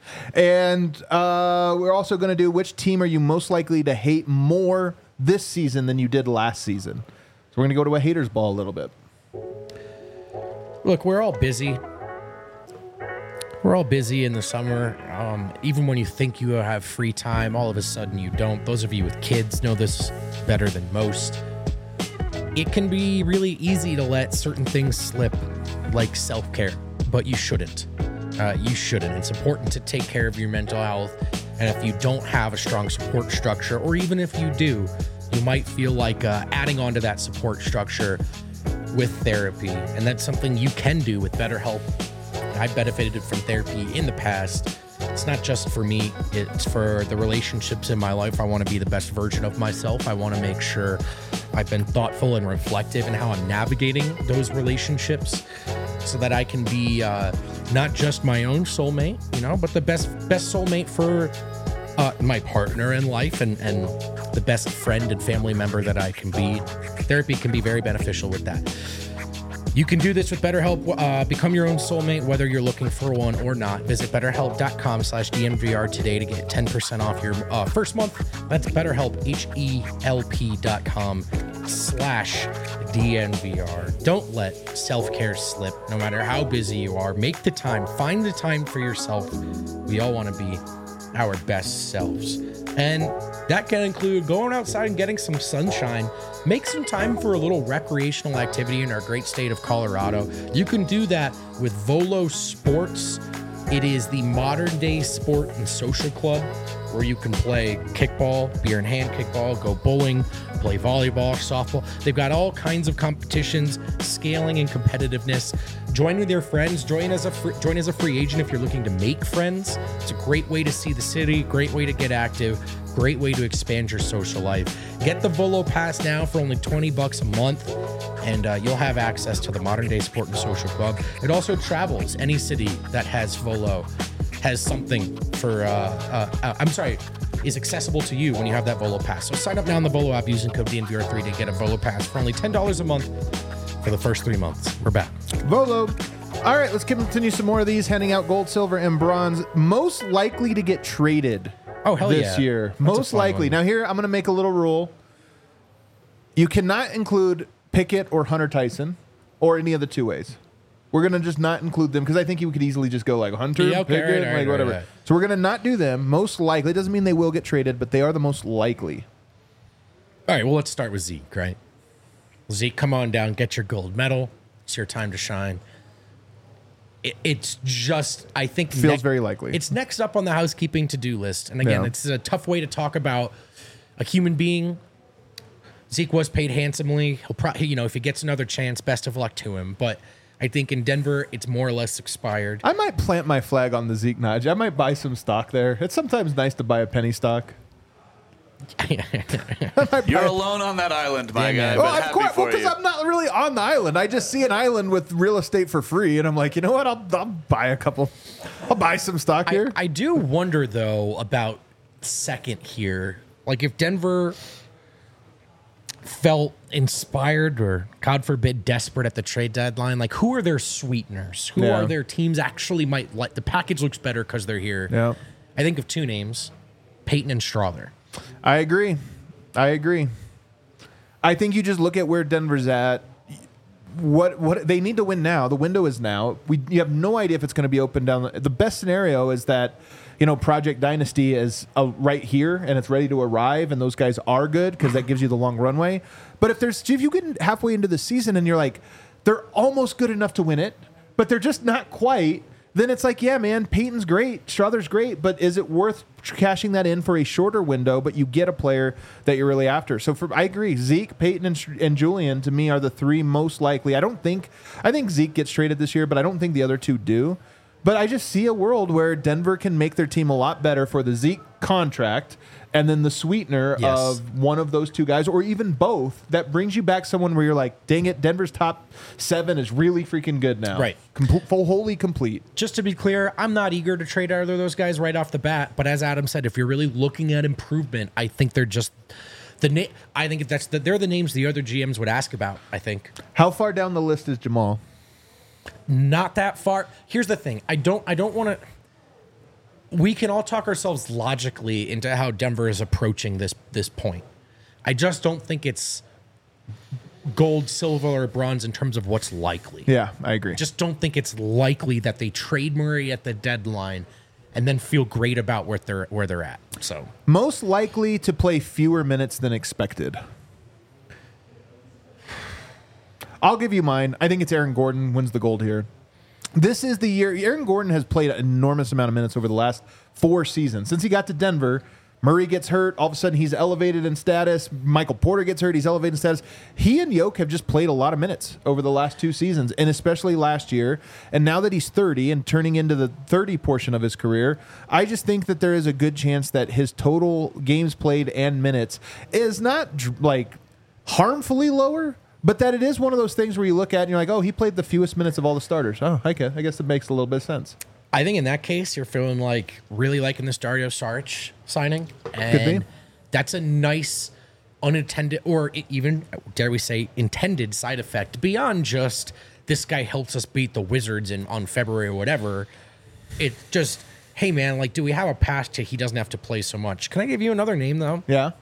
And we're also going to do which team are you most likely to hate more this season than you did last season. So we're going to go to a haters ball a little bit. Look, we're all busy. We're all busy in the summer. Even when you think you have free time, all of a sudden you don't. Those of you with kids know this better than most. It can be really easy to let certain things slip, like self-care, but you shouldn't. You shouldn't. It's important to take care of your mental health, and if you don't have a strong support structure, or even if you do, you might feel like adding on to that support structure with therapy, and that's something you can do with BetterHelp. I've benefited from therapy in the past. It's not just for me, it's for the relationships in my life. I want to be the best version of myself. I want to make sure I've been thoughtful and reflective in how I'm navigating those relationships so that I can be not just my own soulmate, but the best soulmate for my partner in life and the best friend and family member that I can be. Therapy can be very beneficial with that. You can do this with BetterHelp. Become your own soulmate, whether you're looking for one or not. Visit BetterHelp.com/DNVR today to get 10% off your first month. That's BetterHelp, HELP.com/DNVR. Don't let self-care slip, no matter how busy you are. Make the time. Find the time for yourself. We all want to be our best selves. And that can include going outside and getting some sunshine. Make some time for a little recreational activity in our great state of Colorado. You can do that with Volo Sports. It is the modern day sport and social club where you can play kickball, beer in hand kickball, go bowling, play volleyball, softball. They've got all kinds of competitions, scaling and competitiveness. Join with your friends. Join as a free agent if you're looking to make friends. It's a great way to see the city, great way to get active, great way to expand your social life. Get the Volo Pass now for only $20 a month, and you'll have access to the Modern Day Sport and Social Club. It also travels. Any city that has Volo has something for, is accessible to you when you have that Volo Pass. So sign up now on the Volo app using code DNVR3 to get a Volo Pass for only $10 a month for the first 3 months. We're back. Volo. All right, let's continue some more of these, handing out gold, silver, and bronze. Most likely to get traded this year. That's most likely. one. Now here, I'm going to make a little rule. You cannot include Pickett or Hunter Tyson or any of the two ways. We're going to just not include them because I think you could easily just go like Hunter, Yeah, okay, Pickett, right, whatever. right. So we're going to not do them. Most likely. It doesn't mean they will get traded, but they are the most likely. All right, well, let's start with Zeke, right? Zeke, come on down, get your gold medal. It's your time to shine. It's just, I think... Feels very likely. It's next up on the housekeeping to-do list. And again, it's a tough way to talk about a human being. Zeke was paid handsomely. He'll probably, if he gets another chance, best of luck to him. But I think in Denver, it's more or less expired. I might plant my flag on the Zeke Nudge. I might buy some stock there. It's sometimes nice to buy a penny stock. You're alone on that island, my guy. Well, But of happy course, for because you. I'm not really on the island. I just see an island with real estate for free, and I'm like, you know what? I'll buy a couple. I'll buy some stock here. I do wonder, though, about second here. Like, if Denver felt inspired or, God forbid, desperate at the trade deadline, like, who are their sweeteners? Who Yeah. are their teams actually might like? The package looks better because they're here. Yeah. I think of two names, Peyton and Strother. I agree. I think you just look at where Denver's at. What they need to win now. The window is now. You have no idea if it's going to be open down. The best scenario is that Project Dynasty is right here and it's ready to arrive, and those guys are good because that gives you the long runway. But if you get halfway into the season and you're like, they're almost good enough to win it, but they're just not quite. Then it's like, yeah, man, Peyton's great, Strother's great, but is it worth cashing that in for a shorter window, but you get a player that you're really after? So I agree. Zeke, Peyton, and Julian, to me, are the three most likely. I think Zeke gets traded this year, but I don't think the other two do. But I just see a world where Denver can make their team a lot better for the Zeke contract and then the sweetener of one of those two guys, or even both, that brings you back someone where you're like, dang it, Denver's top 7 is really freaking good now. Right. Wholly complete. Just to be clear, I'm not eager to trade either of those guys right off the bat. But as Adam said, if you're really looking at improvement, I think they're just I think they're the names the other GMs would ask about. I think. How far down the list is Jamal? Not that far. Here's the thing. I don't want to. We can all talk ourselves logically into how Denver is approaching this point. I just don't think it's gold, silver, or bronze in terms of what's likely. Yeah, I agree. Just don't think it's likely that they trade Murray at the deadline and then feel great about where they're at. So most likely to play fewer minutes than expected. I'll give you mine. I think it's Aaron Gordon wins the gold here. This is the year. Aaron Gordon has played an enormous amount of minutes over the last 4 seasons. Since he got to Denver, Murray gets hurt. All of a sudden, he's elevated in status. Michael Porter gets hurt. He's elevated in status. He and Yoke have just played a lot of minutes over the last 2 seasons, and especially last year. And now that he's 30 and turning into the 30 portion of his career, I just think that there is a good chance that his total games played and minutes is not like harmfully lower, but that it is one of those things where you look at and you're like, oh, he played the fewest minutes of all the starters. Oh, okay. I guess it makes a little bit of sense. I think in that case, you're feeling like really liking this Dario Saric signing. And that's a nice unintended, or even, dare we say, intended side effect beyond just this guy helps us beat the Wizards on February or whatever. It just, hey, man, like, do we have a path to he doesn't have to play so much? Can I give you another name, though? Yeah.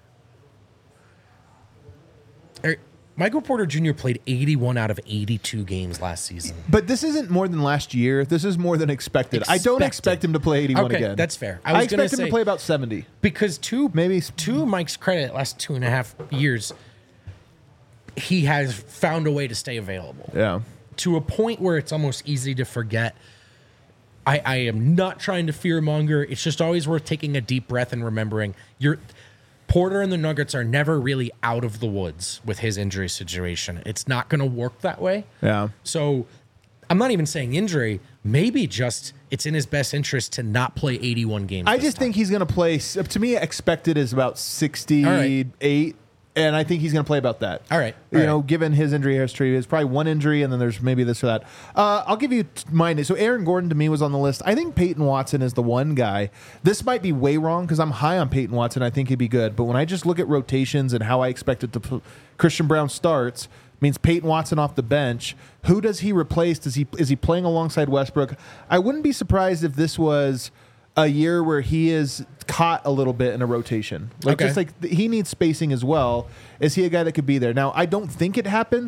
Michael Porter Jr. played 81 out of 82 games last season. But this isn't more than last year. This is more than expected. I don't expect him to play 81 okay, again. That's fair. I expect him to play about 70. Because to Mike's credit, last 2.5 years, he has found a way to stay available. Yeah. To a point where it's almost easy to forget. I am not trying to fearmonger. It's just always worth taking a deep breath and remembering Porter and the Nuggets are never really out of the woods with his injury situation. It's not going to work that way. Yeah. So I'm not even saying injury. Maybe just it's in his best interest to not play 81 games. I just think he's going to play. To me, expected is about 68. And I think he's going to play about that. All right. Given his injury history, it's probably one injury, and then there's maybe this or that. I'll give you mine. So Aaron Gordon, to me, was on the list. I think Peyton Watson is the one guy. This might be way wrong because I'm high on Peyton Watson. I think he'd be good. But when I just look at rotations and how I expect it to Christian Brown starts, means Peyton Watson off the bench. Who does he replace? Is he playing alongside Westbrook? I wouldn't be surprised if this was a year where he is caught a little bit in a rotation. Just like he needs spacing as well. Is he a guy that could be there? Now, I don't think it happens,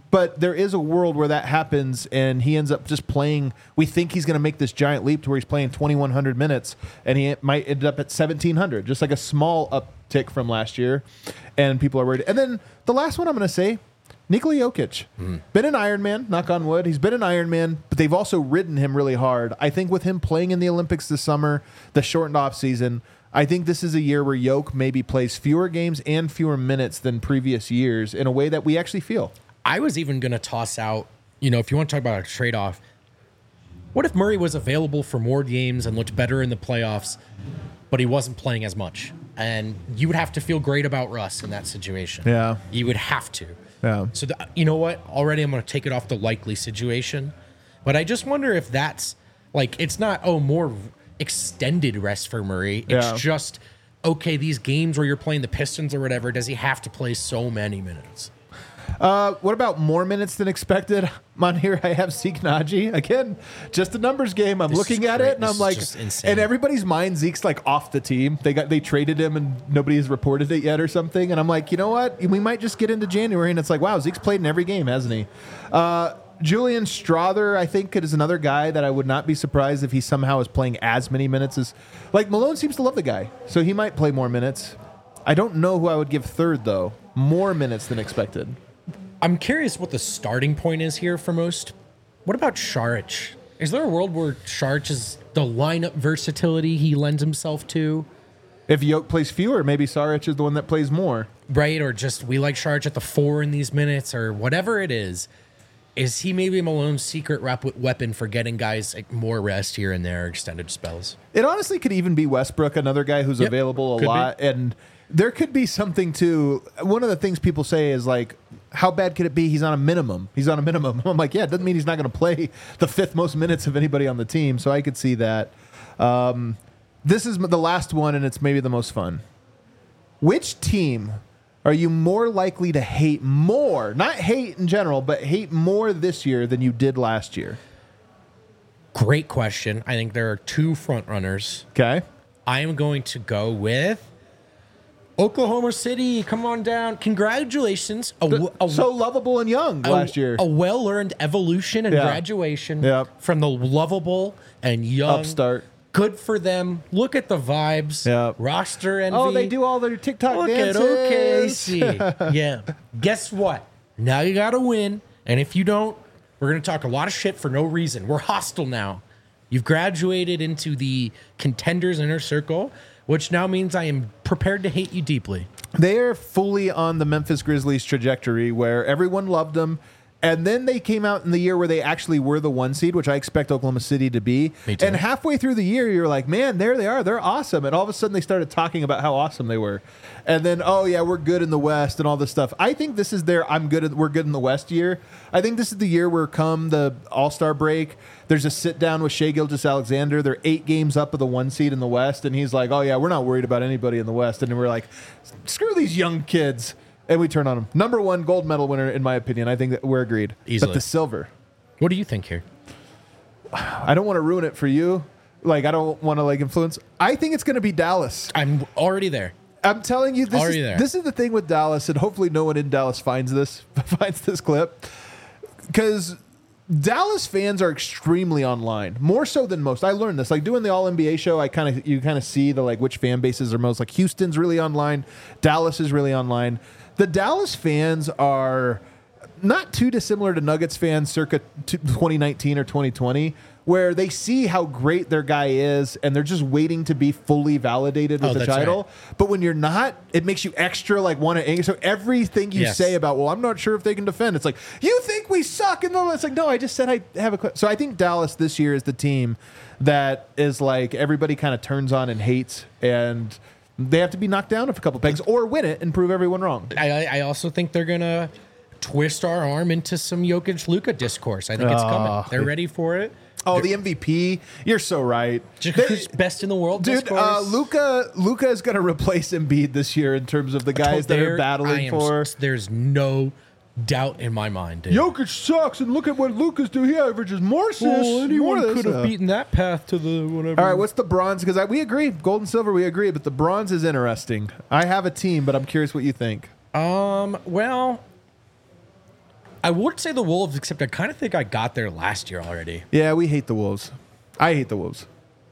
But there is a world where that happens and he ends up just playing. We think he's going to make this giant leap to where he's playing 2,100 minutes and he might end up at 1,700, just like a small uptick from last year. And people are worried. And then the last one I'm going to say, Nikola Jokic. Been an Iron Man, knock on wood. He's been an Iron Man, but they've also ridden him really hard. I think with him playing in the Olympics this summer, the shortened off season, I think this is a year where Jokic maybe plays fewer games and fewer minutes than previous years in a way that we actually feel. I was even going to toss out, if you want to talk about a trade-off, what if Murray was available for more games and looked better in the playoffs, but he wasn't playing as much? And you would have to feel great about Russ in that situation. Yeah. You would have to. Yeah. So, you know what? Already I'm going to take it off the likely situation. But I just wonder if that's, it's not, more extended rest for Murray. It's just, okay, these games where you're playing the Pistons or whatever, does he have to play so many minutes? What about more minutes than expected? On here, I have Zeke Naji. Again, just a numbers game. I'm looking at it, and I'm like, in everybody's mind, Zeke's off the team. They traded him, and nobody has reported it yet or something. And I'm like, you know what? We might just get into January, and it's like, wow, Zeke's played in every game, hasn't he? Julian Strother, I think, is another guy that I would not be surprised if he somehow is playing as many minutes as... Malone seems to love the guy, so he might play more minutes. I don't know who I would give third, though. More minutes than expected. I'm curious what the starting point is here for most. What about Šarić? Is there a world where Šarić is the lineup versatility he lends himself to? If Jokic plays fewer, maybe Šarić is the one that plays more. Right, or just we like Šarić at the 4 in these minutes, or whatever it is. Is he maybe Malone's secret weapon for getting guys more rest here and there, extended spells? It honestly could even be Westbrook, another guy who's available a lot. And there could be something to... One of the things people say is how bad could it be? He's on a minimum. I'm like, yeah, it doesn't mean he's not going to play the 5th most minutes of anybody on the team. So I could see that. This is the last one, and it's maybe the most fun. Which team are you more likely to hate more? Not hate in general, but hate more this year than you did last year? Great question. I think there are 2 front runners. Okay. I am going to go with Oklahoma City. Come on down. Congratulations. So lovable and young last year. A well-earned evolution and graduation from the lovable and young. Upstart. Good for them. Look at the vibes. Roster envy. Oh, they do all their TikTok dances. Look at OKC. Yeah. Guess what? Now you got to win. And if you don't, we're going to talk a lot of shit for no reason. We're hostile now. You've graduated into the contenders' inner circle, which now means I am prepared to hate you deeply. They are fully on the Memphis Grizzlies trajectory where everyone loved them. And then they came out in the year where they actually were the 1 seed, which I expect Oklahoma City to be. Me too. And halfway through the year, you're like, man, there they are. They're awesome. And all of a sudden, they started talking about how awesome they were. And then, oh, yeah, we're good in the West and all this stuff. I think this is their we're good in the West year. I think this is the year where come the All-Star break, there's a sit-down with Shai Gilgeous-Alexander. They're 8 games up of the 1 seed in the West. And he's like, oh, yeah, we're not worried about anybody in the West. And we're like, screw these young kids. And we turn on him. Number 1 gold medal winner, in my opinion. I think that we're agreed. Easily. But the silver. What do you think here? I don't want to ruin it for you. I don't want to influence. I think it's going to be Dallas. I'm already there. I'm telling you, this is the thing with Dallas, and hopefully no one in Dallas finds this clip. Because Dallas fans are extremely online, more so than most. I learned this, doing the All NBA show. You kind of see the which fan bases are most. Houston's really online, Dallas is really online. The Dallas fans are not too dissimilar to Nuggets fans circa 2019 or 2020, where they see how great their guy is and they're just waiting to be fully validated with the title. Right. But when you're not, it makes you extra want to anger. So everything you say about, well, I'm not sure if they can defend. It's you think we suck. And it's no, I just said I have a clip. So I think Dallas this year is the team that is everybody kind of turns on and hates, and they have to be knocked down a couple pegs or win it and prove everyone wrong. I also think they're going to twist our arm into some Jokic-Luka discourse. I think it's coming. They're ready for it. Oh, the MVP. You're so right. Who's best in the world? Dude, Luka is going to replace Embiid this year in terms of the guys that are battling for. There's no doubt in my mind, dude. Jokic sucks, and look at what Luka's do. He averages more assists. Well, anyone could have beaten that path to the whatever. All right, what's the bronze? Because we agree. Gold and silver, we agree. But the bronze is interesting. I have a team, but I'm curious what you think. Well, I would say the Wolves, except I kind of think I got there last year already. Yeah, we hate the Wolves. I hate the Wolves.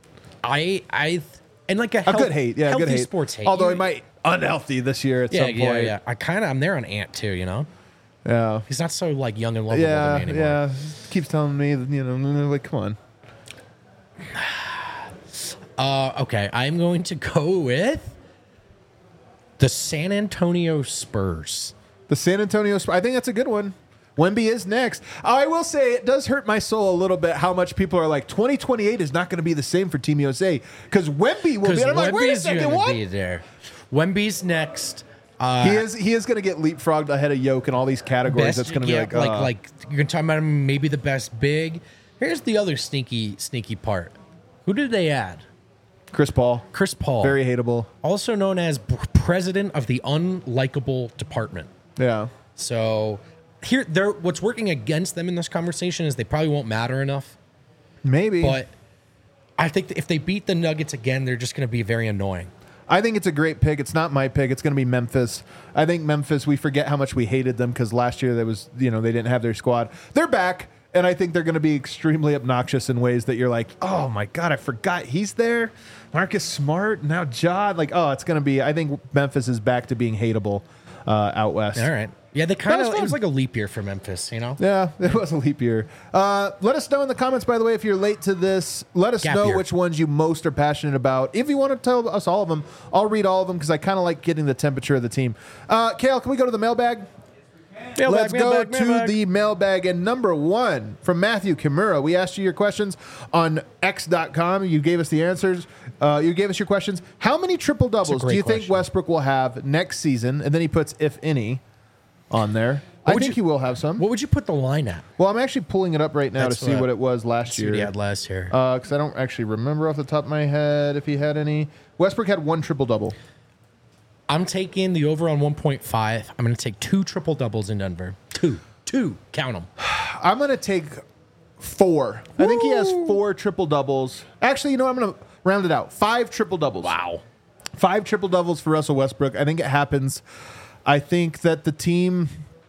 And like a good hate. Yeah, healthy good hate. Sports hate. Although he might unhealthy this year at some point. Yeah. I'm there on Ant too, you know? Yeah. He's not so like young and lovable to me anymore. Yeah. Keeps telling me, like, come on. Okay, I'm going to go with the San Antonio Spurs. The San Antonio Spurs. I think that's a good one. Wemby is next. I will say it does hurt my soul a little bit how much people are like 2028 is not going to be the same for Team USA because Wemby will be. And I'm like, wait a second, what? Be there. Wemby's next. He is going to get leapfrogged ahead of Yoke in all these categories. That's going to be like you're going to talk about him, maybe the best big. Here's the other sneaky part. Who did they add? Chris Paul. Very hateable. Also known as president of the unlikable department. Yeah. So what's working against them in this conversation is they probably won't matter enough. Maybe. But I think that if they beat the Nuggets again, they're just going to be very annoying. I think it's a great pick. It's not my pick. It's going to be Memphis. I think Memphis, we forget how much we hated them because last year they didn't have their squad. They're back, and I think they're going to be extremely obnoxious in ways that you're like, oh my God, I forgot he's there. Marcus Smart, now Ja. Like, oh, it's going to be, I think Memphis is back to being hateable out west. All right. Yeah, it was like a leap year for Memphis, you know? Yeah, it was a leap year. Let us know in the comments, by the way, if you're late to this. Let us know which ones you most are passionate about. If you want to tell us all of them, I'll read all of them because I kind of like getting the temperature of the team. Kale, can we go to the mailbag? Let's go to the mailbag. And number one from Matthew Kimura. We asked you your questions on X.com. You gave us the answers. You gave us your questions. How many triple doubles do you think Westbrook will have next season? And then he puts, if any, on there. I think he will have some. What would you put the line at? Well, I'm actually pulling it up right now to see what it was last year. What he had last year. Because I don't actually remember off the top of my head if he had any. Westbrook had one triple double. I'm taking the over on 1.5. I'm going to take 2 triple doubles in Denver. Two. Count them. I'm going to take 4. Woo! I think he has 4 triple doubles. Actually, you know, I'm going to round it out. 5 triple doubles. Wow. 5 triple doubles for Russell Westbrook. I think it happens. I think that the team,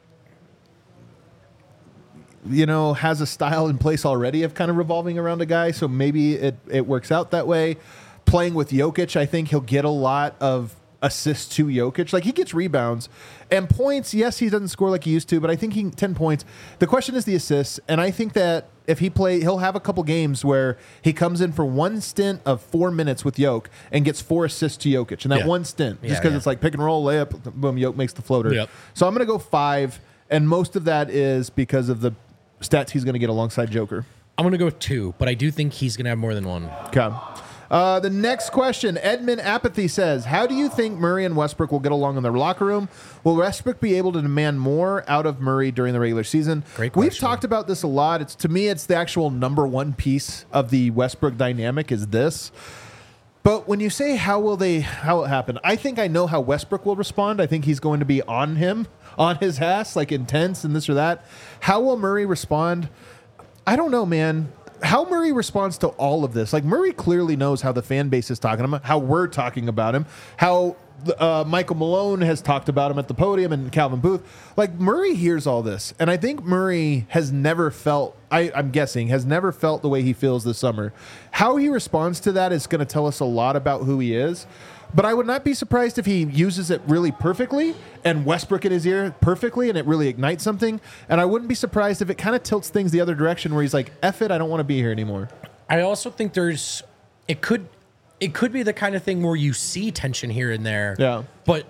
has a style in place already of kind of revolving around a guy. So maybe it works out that way. Playing with Jokic, I think he'll get a lot of assists to Jokic. Like, he gets rebounds and points. Yes, he doesn't score like he used to, but I think 10 points. The question is the assists. And I think that if he'll have a couple games where he comes in for one stint of 4 minutes with Jokic and gets 4 assists to Jokic. And that one stint, just because it's like pick and roll, layup, boom, Jokic makes the floater. Yep. So I'm going to go 5. And most of that is because of the stats he's going to get alongside Joker. I'm going to go 2, but I do think he's going to have more than one. Okay. The next question, Edmund Apathy says, how do you think Murray and Westbrook will get along in their locker room? Will Westbrook be able to demand more out of Murray during the regular season? Great question. We've talked about this a lot. To me, it's the actual number one piece of the Westbrook dynamic is this. But when you say how it happen, I think I know how Westbrook will respond. I think he's going to be on his ass, like intense and this or that. How will Murray respond? I don't know, man. How Murray responds to all of this. Like, Murray clearly knows how the fan base is talking about him, how we're talking about him, how Michael Malone has talked about him at the podium and Calvin Booth. Like, Murray hears all this. And I think Murray has never felt, I'm guessing, has never felt the way he feels this summer. How he responds to that is going to tell us a lot about who he is. But I would not be surprised if he uses it really perfectly and Westbrook in his ear perfectly and it really ignites something. And I wouldn't be surprised if it kind of tilts things the other direction where he's like, F it, I don't want to be here anymore. I also think it could be the kind of thing where you see tension here and there. Yeah. But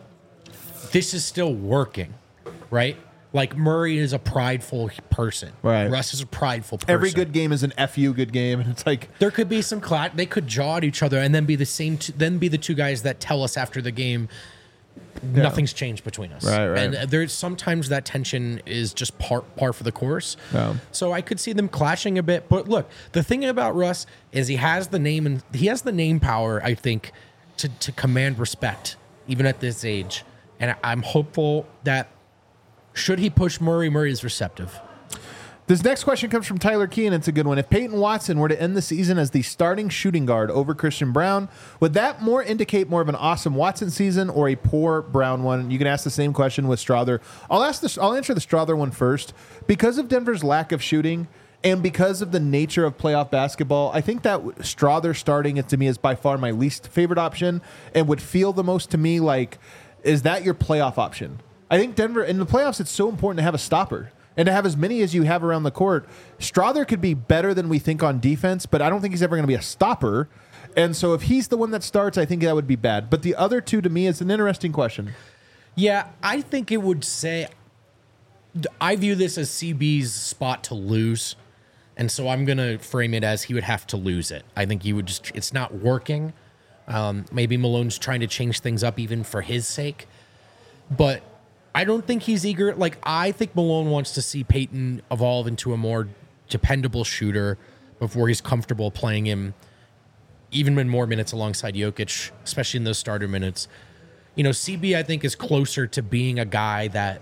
this is still working, right? Like, Murray is a prideful person. Right. Russ is a prideful person. Every good game is an FU good game. And it's like, there could be some they could jaw at each other and then be the same, then be the two guys that tell us after the game, nothing's changed between us. Right. And there's sometimes that tension is just par for the course. Yeah. So I could see them clashing a bit. But look, the thing about Russ is he has the name and he has the name power, I think, to command respect, even at this age. And I'm hopeful that should he push Murray, Murray is receptive. This next question comes from Tyler Key, and it's a good one. If Peyton Watson were to end the season as the starting shooting guard over Christian Brown, would that more indicate more of an awesome Watson season or a poor Brown one? You can ask the same question with Strother. I'll answer the Strother one first. Because of Denver's lack of shooting and because of the nature of playoff basketball, I think that Strother starting it to me is by far my least favorite option and would feel the most to me like, is that your playoff option? I think Denver, in the playoffs, it's so important to have a stopper. And to have as many as you have around the court. Strother could be better than we think on defense, but I don't think he's ever going to be a stopper. And so if he's the one that starts, I think that would be bad. But the other two, to me, is an interesting question. Yeah, I think it would say... I view this as CB's spot to lose. And so I'm going to frame it as he would have to lose it. I think he would just... It's not working. Maybe Malone's trying to change things up even for his sake. But... I don't think he's eager. Like, I think Malone wants to see Peyton evolve into a more dependable shooter before he's comfortable playing him even in more minutes alongside Jokic, especially in those starter minutes. You know, CB, I think, is closer to being a guy that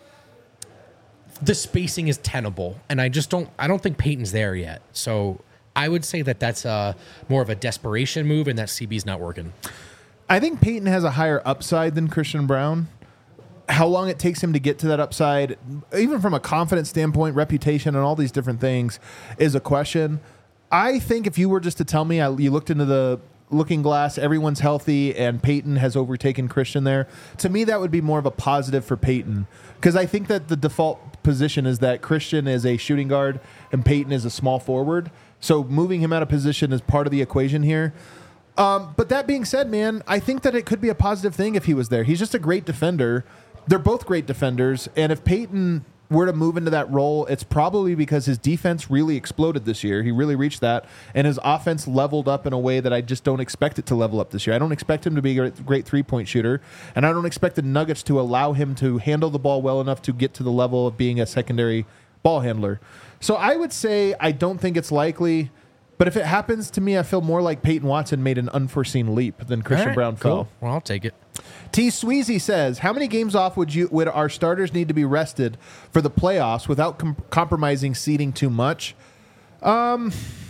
the spacing is tenable. And I don't think Peyton's there yet. So I would say that that's more of a desperation move and that CB's not working. I think Peyton has a higher upside than Christian Brown. How long it takes him to get to that upside, even from a confidence standpoint, reputation, and all these different things, is a question. I think if you were just to tell me, you looked into the looking glass, everyone's healthy, and Peyton has overtaken Christian there, to me that would be more of a positive for Peyton. Because I think that the default position is that Christian is a shooting guard and Peyton is a small forward. So moving him out of position is part of the equation here. But that being said, man, I think that it could be a positive thing if he was there. He's just a great defender. They're both great defenders, and if Peyton were to move into that role, it's probably because his defense really exploded this year. He really reached that, and his offense leveled up in a way that I just don't expect it to level up this year. I don't expect him to be a great three-point shooter, and I don't expect the Nuggets to allow him to handle the ball well enough to get to the level of being a secondary ball handler. So I would say I don't think it's likely, but if it happens to me, I feel more like Peyton Watson made an unforeseen leap than Christian Brown fell. Well, I'll take it. T. Sweezy says, how many games off would our starters need to be rested for the playoffs without compromising seeding too much? Here's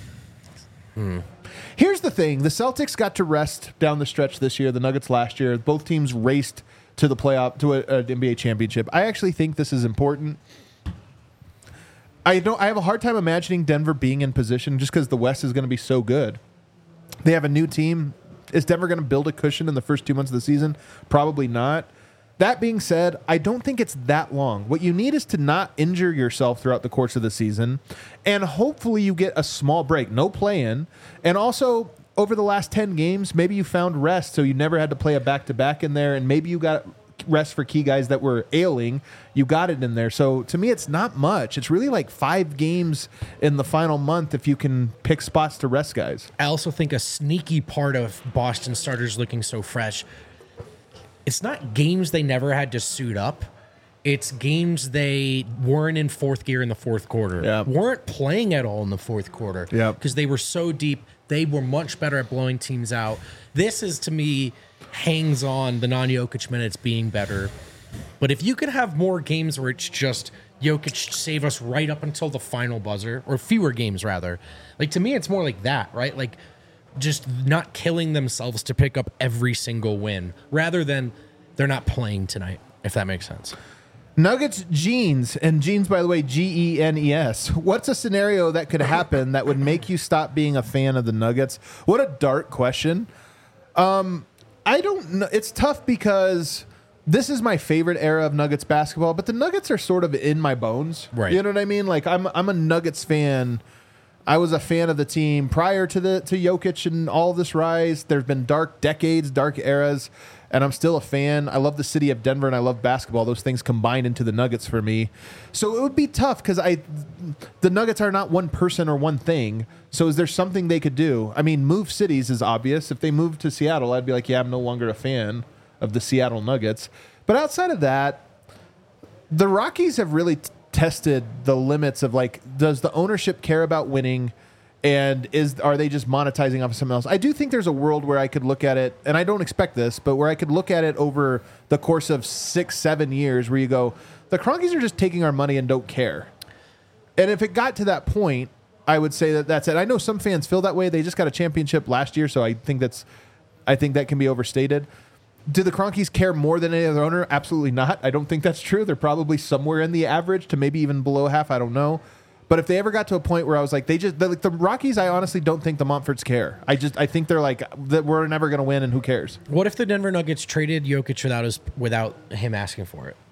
the thing. The Celtics got to rest down the stretch this year. The Nuggets last year. Both teams raced to the playoff, to an NBA championship. I actually think this is important. I have a hard time imagining Denver being in position just because the West is going to be so good. They have a new team. Is Denver going to build a cushion in the first 2 months of the season? Probably not. That being said, I don't think it's that long. What you need is to not injure yourself throughout the course of the season, and hopefully you get a small break, no play-in, and also over the last 10 games, maybe you found rest, so you never had to play a back-to-back in there, and maybe you got rest for key guys that were ailing. You got it in there. So to me, it's not much. It's really like 5 games in the final month if you can pick spots to rest guys. I also think a sneaky part of Boston starters looking so fresh, it's not games they never had to suit up. It's games they weren't in fourth gear in the fourth quarter. Yep. Weren't playing at all in the fourth quarter. Because they were so deep. They were much better at blowing teams out. This is, to me, hangs on the non-Jokic minutes being better. But if you could have more games where it's just Jokic save us right up until the final buzzer, or fewer games rather, like to me it's more like that, right? Like just not killing themselves to pick up every single win rather than they're not playing tonight, if that makes sense. Nuggets Genes, and Genes, by the way, Genes. What's a scenario that could happen that would make you stop being a fan of the Nuggets? What a dark question. I don't know. It's tough because this is my favorite era of Nuggets basketball, but the Nuggets are sort of in my bones. Right. You know what I mean? Like I'm a Nuggets fan. I was a fan of the team prior to Jokic and all this rise. There's been dark decades, dark eras, and I'm still a fan. I love the city of Denver, and I love basketball. Those things combine into the Nuggets for me. So it would be tough because the Nuggets are not one person or one thing. So is there something they could do? I mean, move cities is obvious. If they moved to Seattle, I'd be like, yeah, I'm no longer a fan of the Seattle Nuggets. But outside of that, the Rockies have really tested the limits of, like, does the ownership care about winning, and are they just monetizing off of something else? I do think there's a world where I could look at it, and I don't expect this, but where I could look at it over the course of 6-7 years where you go, the Kroenkes are just taking our money and don't care. And if it got to that point, I would say that that's it. I know some fans feel that way. They just got a championship last year, so I think that can be overstated. Do the Cronkies care more than any other owner? Absolutely not. I don't think that's true. They're probably somewhere in the average to maybe even below half. I don't know. But if they ever got to a point where I was like, the Rockies, I honestly don't think the Montforts care. I think they're like, that we're never going to win and who cares? What if the Denver Nuggets traded Jokic without him asking for it?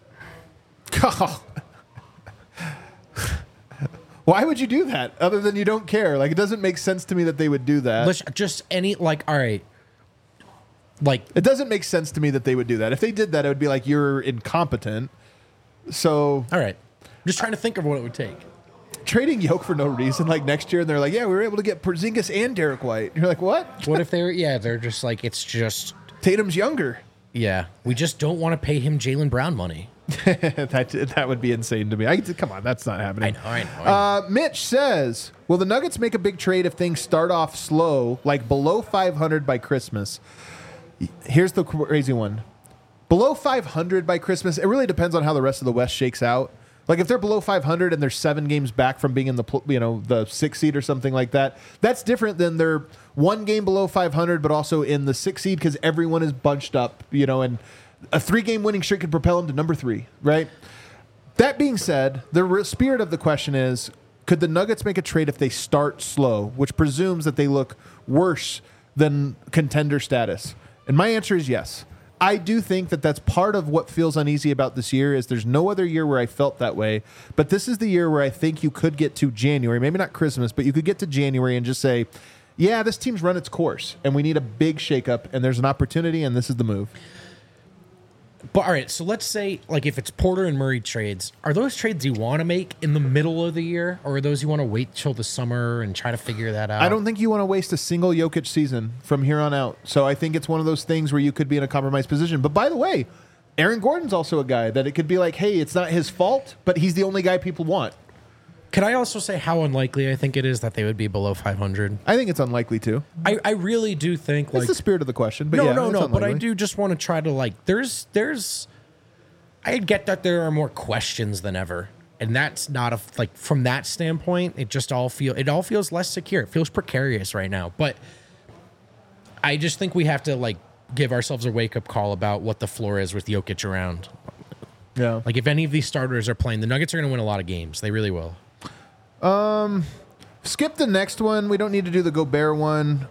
Why would you do that other than you don't care? Like, it doesn't make sense to me that they would do that. All right. Like, it doesn't make sense to me that they would do that. If they did that, it would be like, you're incompetent. So, all right. I'm just trying to think of what it would take. Trading Yoke for no reason, like next year, and they're like, yeah, we were able to get Porzingis and Derek White. You're like, what? What if they're just like, it's just Tatum's younger. Yeah, we just don't want to pay him Jaylen Brown money. that would be insane to me. Come on, that's not happening. I know. Mitch says, will the Nuggets make a big trade if things start off slow, like below 500 by Christmas? Here's the crazy one. Below 500 by Christmas, it really depends on how the rest of the West shakes out. Like if they're below 500 and they're 7 games back from being in the 6th seed or something like that, that's different than they're 1 game below 500 but also in the 6th seed because everyone is bunched up, and a 3-game winning streak could propel them to number 3, right? That being said, the spirit of the question is, could the Nuggets make a trade if they start slow, which presumes that they look worse than contender status? And my answer is yes. I do think that that's part of what feels uneasy about this year is there's no other year where I felt that way. But this is the year where I think you could get to January, maybe not Christmas, but you could get to January and just say, yeah, this team's run its course and we need a big shakeup and there's an opportunity and this is the move. But all right, so let's say like if it's Porter and Murray trades, are those trades you want to make in the middle of the year or are those you want to wait till the summer and try to figure that out? I don't think you want to waste a single Jokic season from here on out. So I think it's one of those things where you could be in a compromised position. But by the way, Aaron Gordon's also a guy that it could be like, hey, it's not his fault, but he's the only guy people want. Can I also say how unlikely I think it is that they would be below 500? I think it's unlikely too. I really do think that's the spirit of the question. But no. But I do just want to try to I get that there are more questions than ever, and that's not from that standpoint. It all feels less secure. It feels precarious right now. But I just think we have to give ourselves a wake up call about what the floor is with Jokic around. Yeah, like if any of these starters are playing, the Nuggets are going to win a lot of games. They really will. Skip the next one. We don't need to do the Gobert one.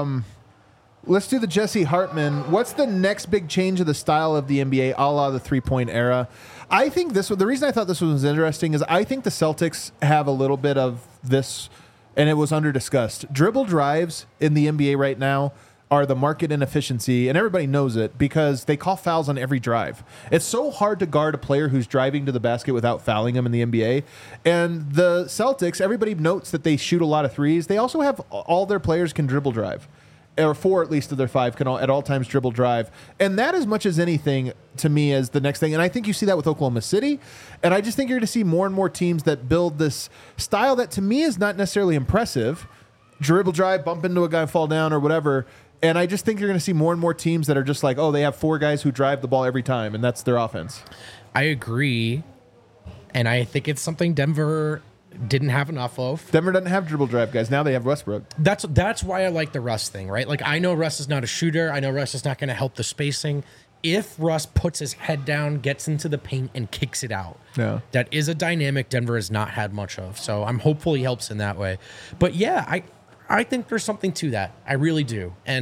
Let's do the Jesse Hartman. What's the next big change of the style of the NBA, a la the three-point era? I think the reason I thought this one was interesting is I think the Celtics have a little bit of this, and it was under-discussed. Dribble drives in the NBA right now are the market inefficiency, and everybody knows it because they call fouls on every drive. It's so hard to guard a player who's driving to the basket without fouling him in the NBA. And the Celtics, everybody notes that they shoot a lot of threes. They also have all their players can dribble drive. Or 4 at least of their 5 can at all times dribble drive. And that as much as anything to me is the next thing. And I think you see that with Oklahoma City. And I just think you're going to see more and more teams that build this style that to me is not necessarily impressive. Dribble drive, bump into a guy, fall down or whatever. And I just think you're going to see more and more teams that are just like, oh, they have 4 guys who drive the ball every time, and that's their offense. I agree. And I think it's something Denver didn't have enough of. Denver doesn't have dribble drive guys. Now they have Westbrook. That's why I like the Russ thing, right? Like, I know Russ is not a shooter. I know Russ is not going to help the spacing. If Russ puts his head down, gets into the paint, and kicks it out, that is a dynamic Denver has not had much of. So I'm hopeful he helps in that way. But yeah, I think there's something to that. I really do. And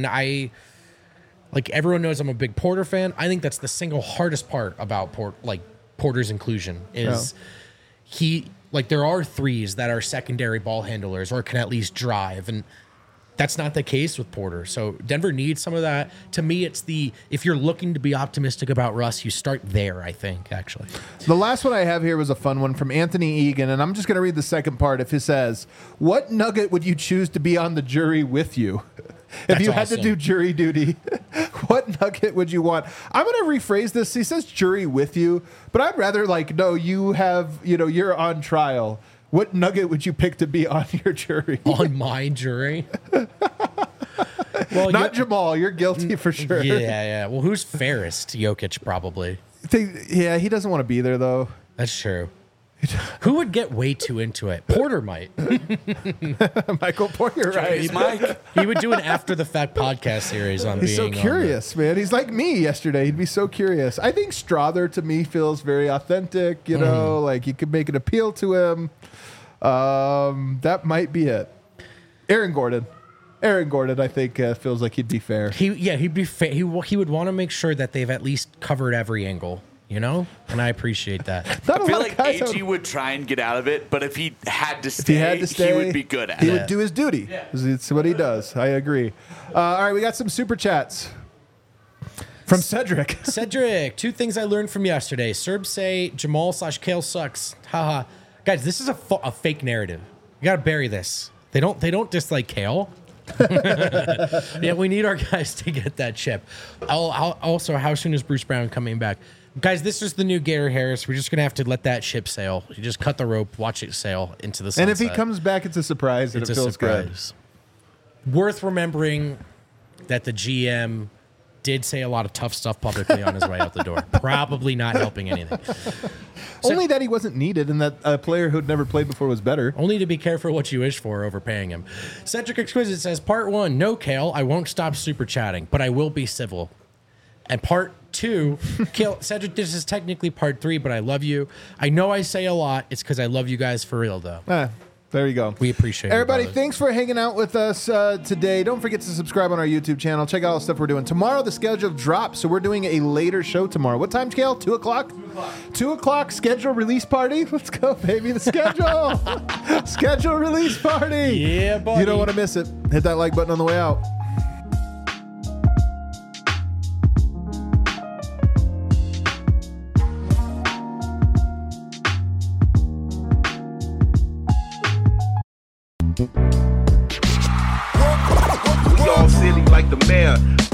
everyone knows I'm a big Porter fan. I think that's the single hardest part about Porter's inclusion is there are threes that are secondary ball handlers or can at least drive. And that's not the case with Porter. So Denver needs some of that. To me, it's if you're looking to be optimistic about Russ, you start there, I think, actually. The last one I have here was a fun one from Anthony Egan, and I'm just going to read the second part. If it says, what Nugget would you choose to be on the jury with you? If you had to do jury duty, what Nugget would you want? I'm going to rephrase this. He says jury with you, but I'd rather no, you're on trial. What Nugget would you pick to be on your jury? On my jury? Well, not Jamal. You're guilty for sure. Yeah. Well, who's fairest? Jokic, probably. Yeah, he doesn't want to be there, though. That's true. Who would get way too into it? Porter might. Michael Porter, right? He's Mike. He would do an after the fact podcast series on He's being so curious, man. He's like me yesterday. He'd be so curious. I think Strother to me feels very authentic. You know, like you could make an appeal to him. That might be it. Aaron Gordon, I think feels like he'd be fair. He'd be he would want to make sure that they've at least covered every angle, you know, and I appreciate that. I feel like AG would try and get out of it, but if he had to stay, he would be good at it. He would do his duty. Yeah. It's what he does. I agree. All right, we got some super chats from Cedric. Cedric, 2 things I learned from yesterday. Serbs say Jamal/Kale sucks. Haha. Guys, this is a fake narrative. You got to bury this. They don't dislike Kale. Yeah, we need our guys to get that chip. Also, how soon is Bruce Brown coming back? Guys, this is the new Gator Harris. We're just going to have to let that ship sail. You just cut the rope, watch it sail into the sunset. And if he comes back, it's a surprise and it feels good. Worth remembering that the GM did say a lot of tough stuff publicly on his way out the door. Probably not helping anything. Only that he wasn't needed and that a player who'd never played before was better. Only to be careful what you wish for overpaying him. Cedric Exquisite says, Part 1, no, Kale, I won't stop super chatting, but I will be civil. And Part 2, Kale, Cedric, this is technically Part 3, but I love you. I know I say a lot. It's because I love you guys for real, though. There you go. We appreciate it. Everybody, thanks for hanging out with us today. Don't forget to subscribe on our YouTube channel. Check out all the stuff we're doing. Tomorrow, the schedule drops, so we're doing a later show tomorrow. What time, Kale? 2 o'clock? 2 o'clock, schedule release party. Let's go, baby. The schedule. Schedule release party. Yeah, buddy. You don't want to miss it. Hit that like button on the way out. We all silly like the mayor.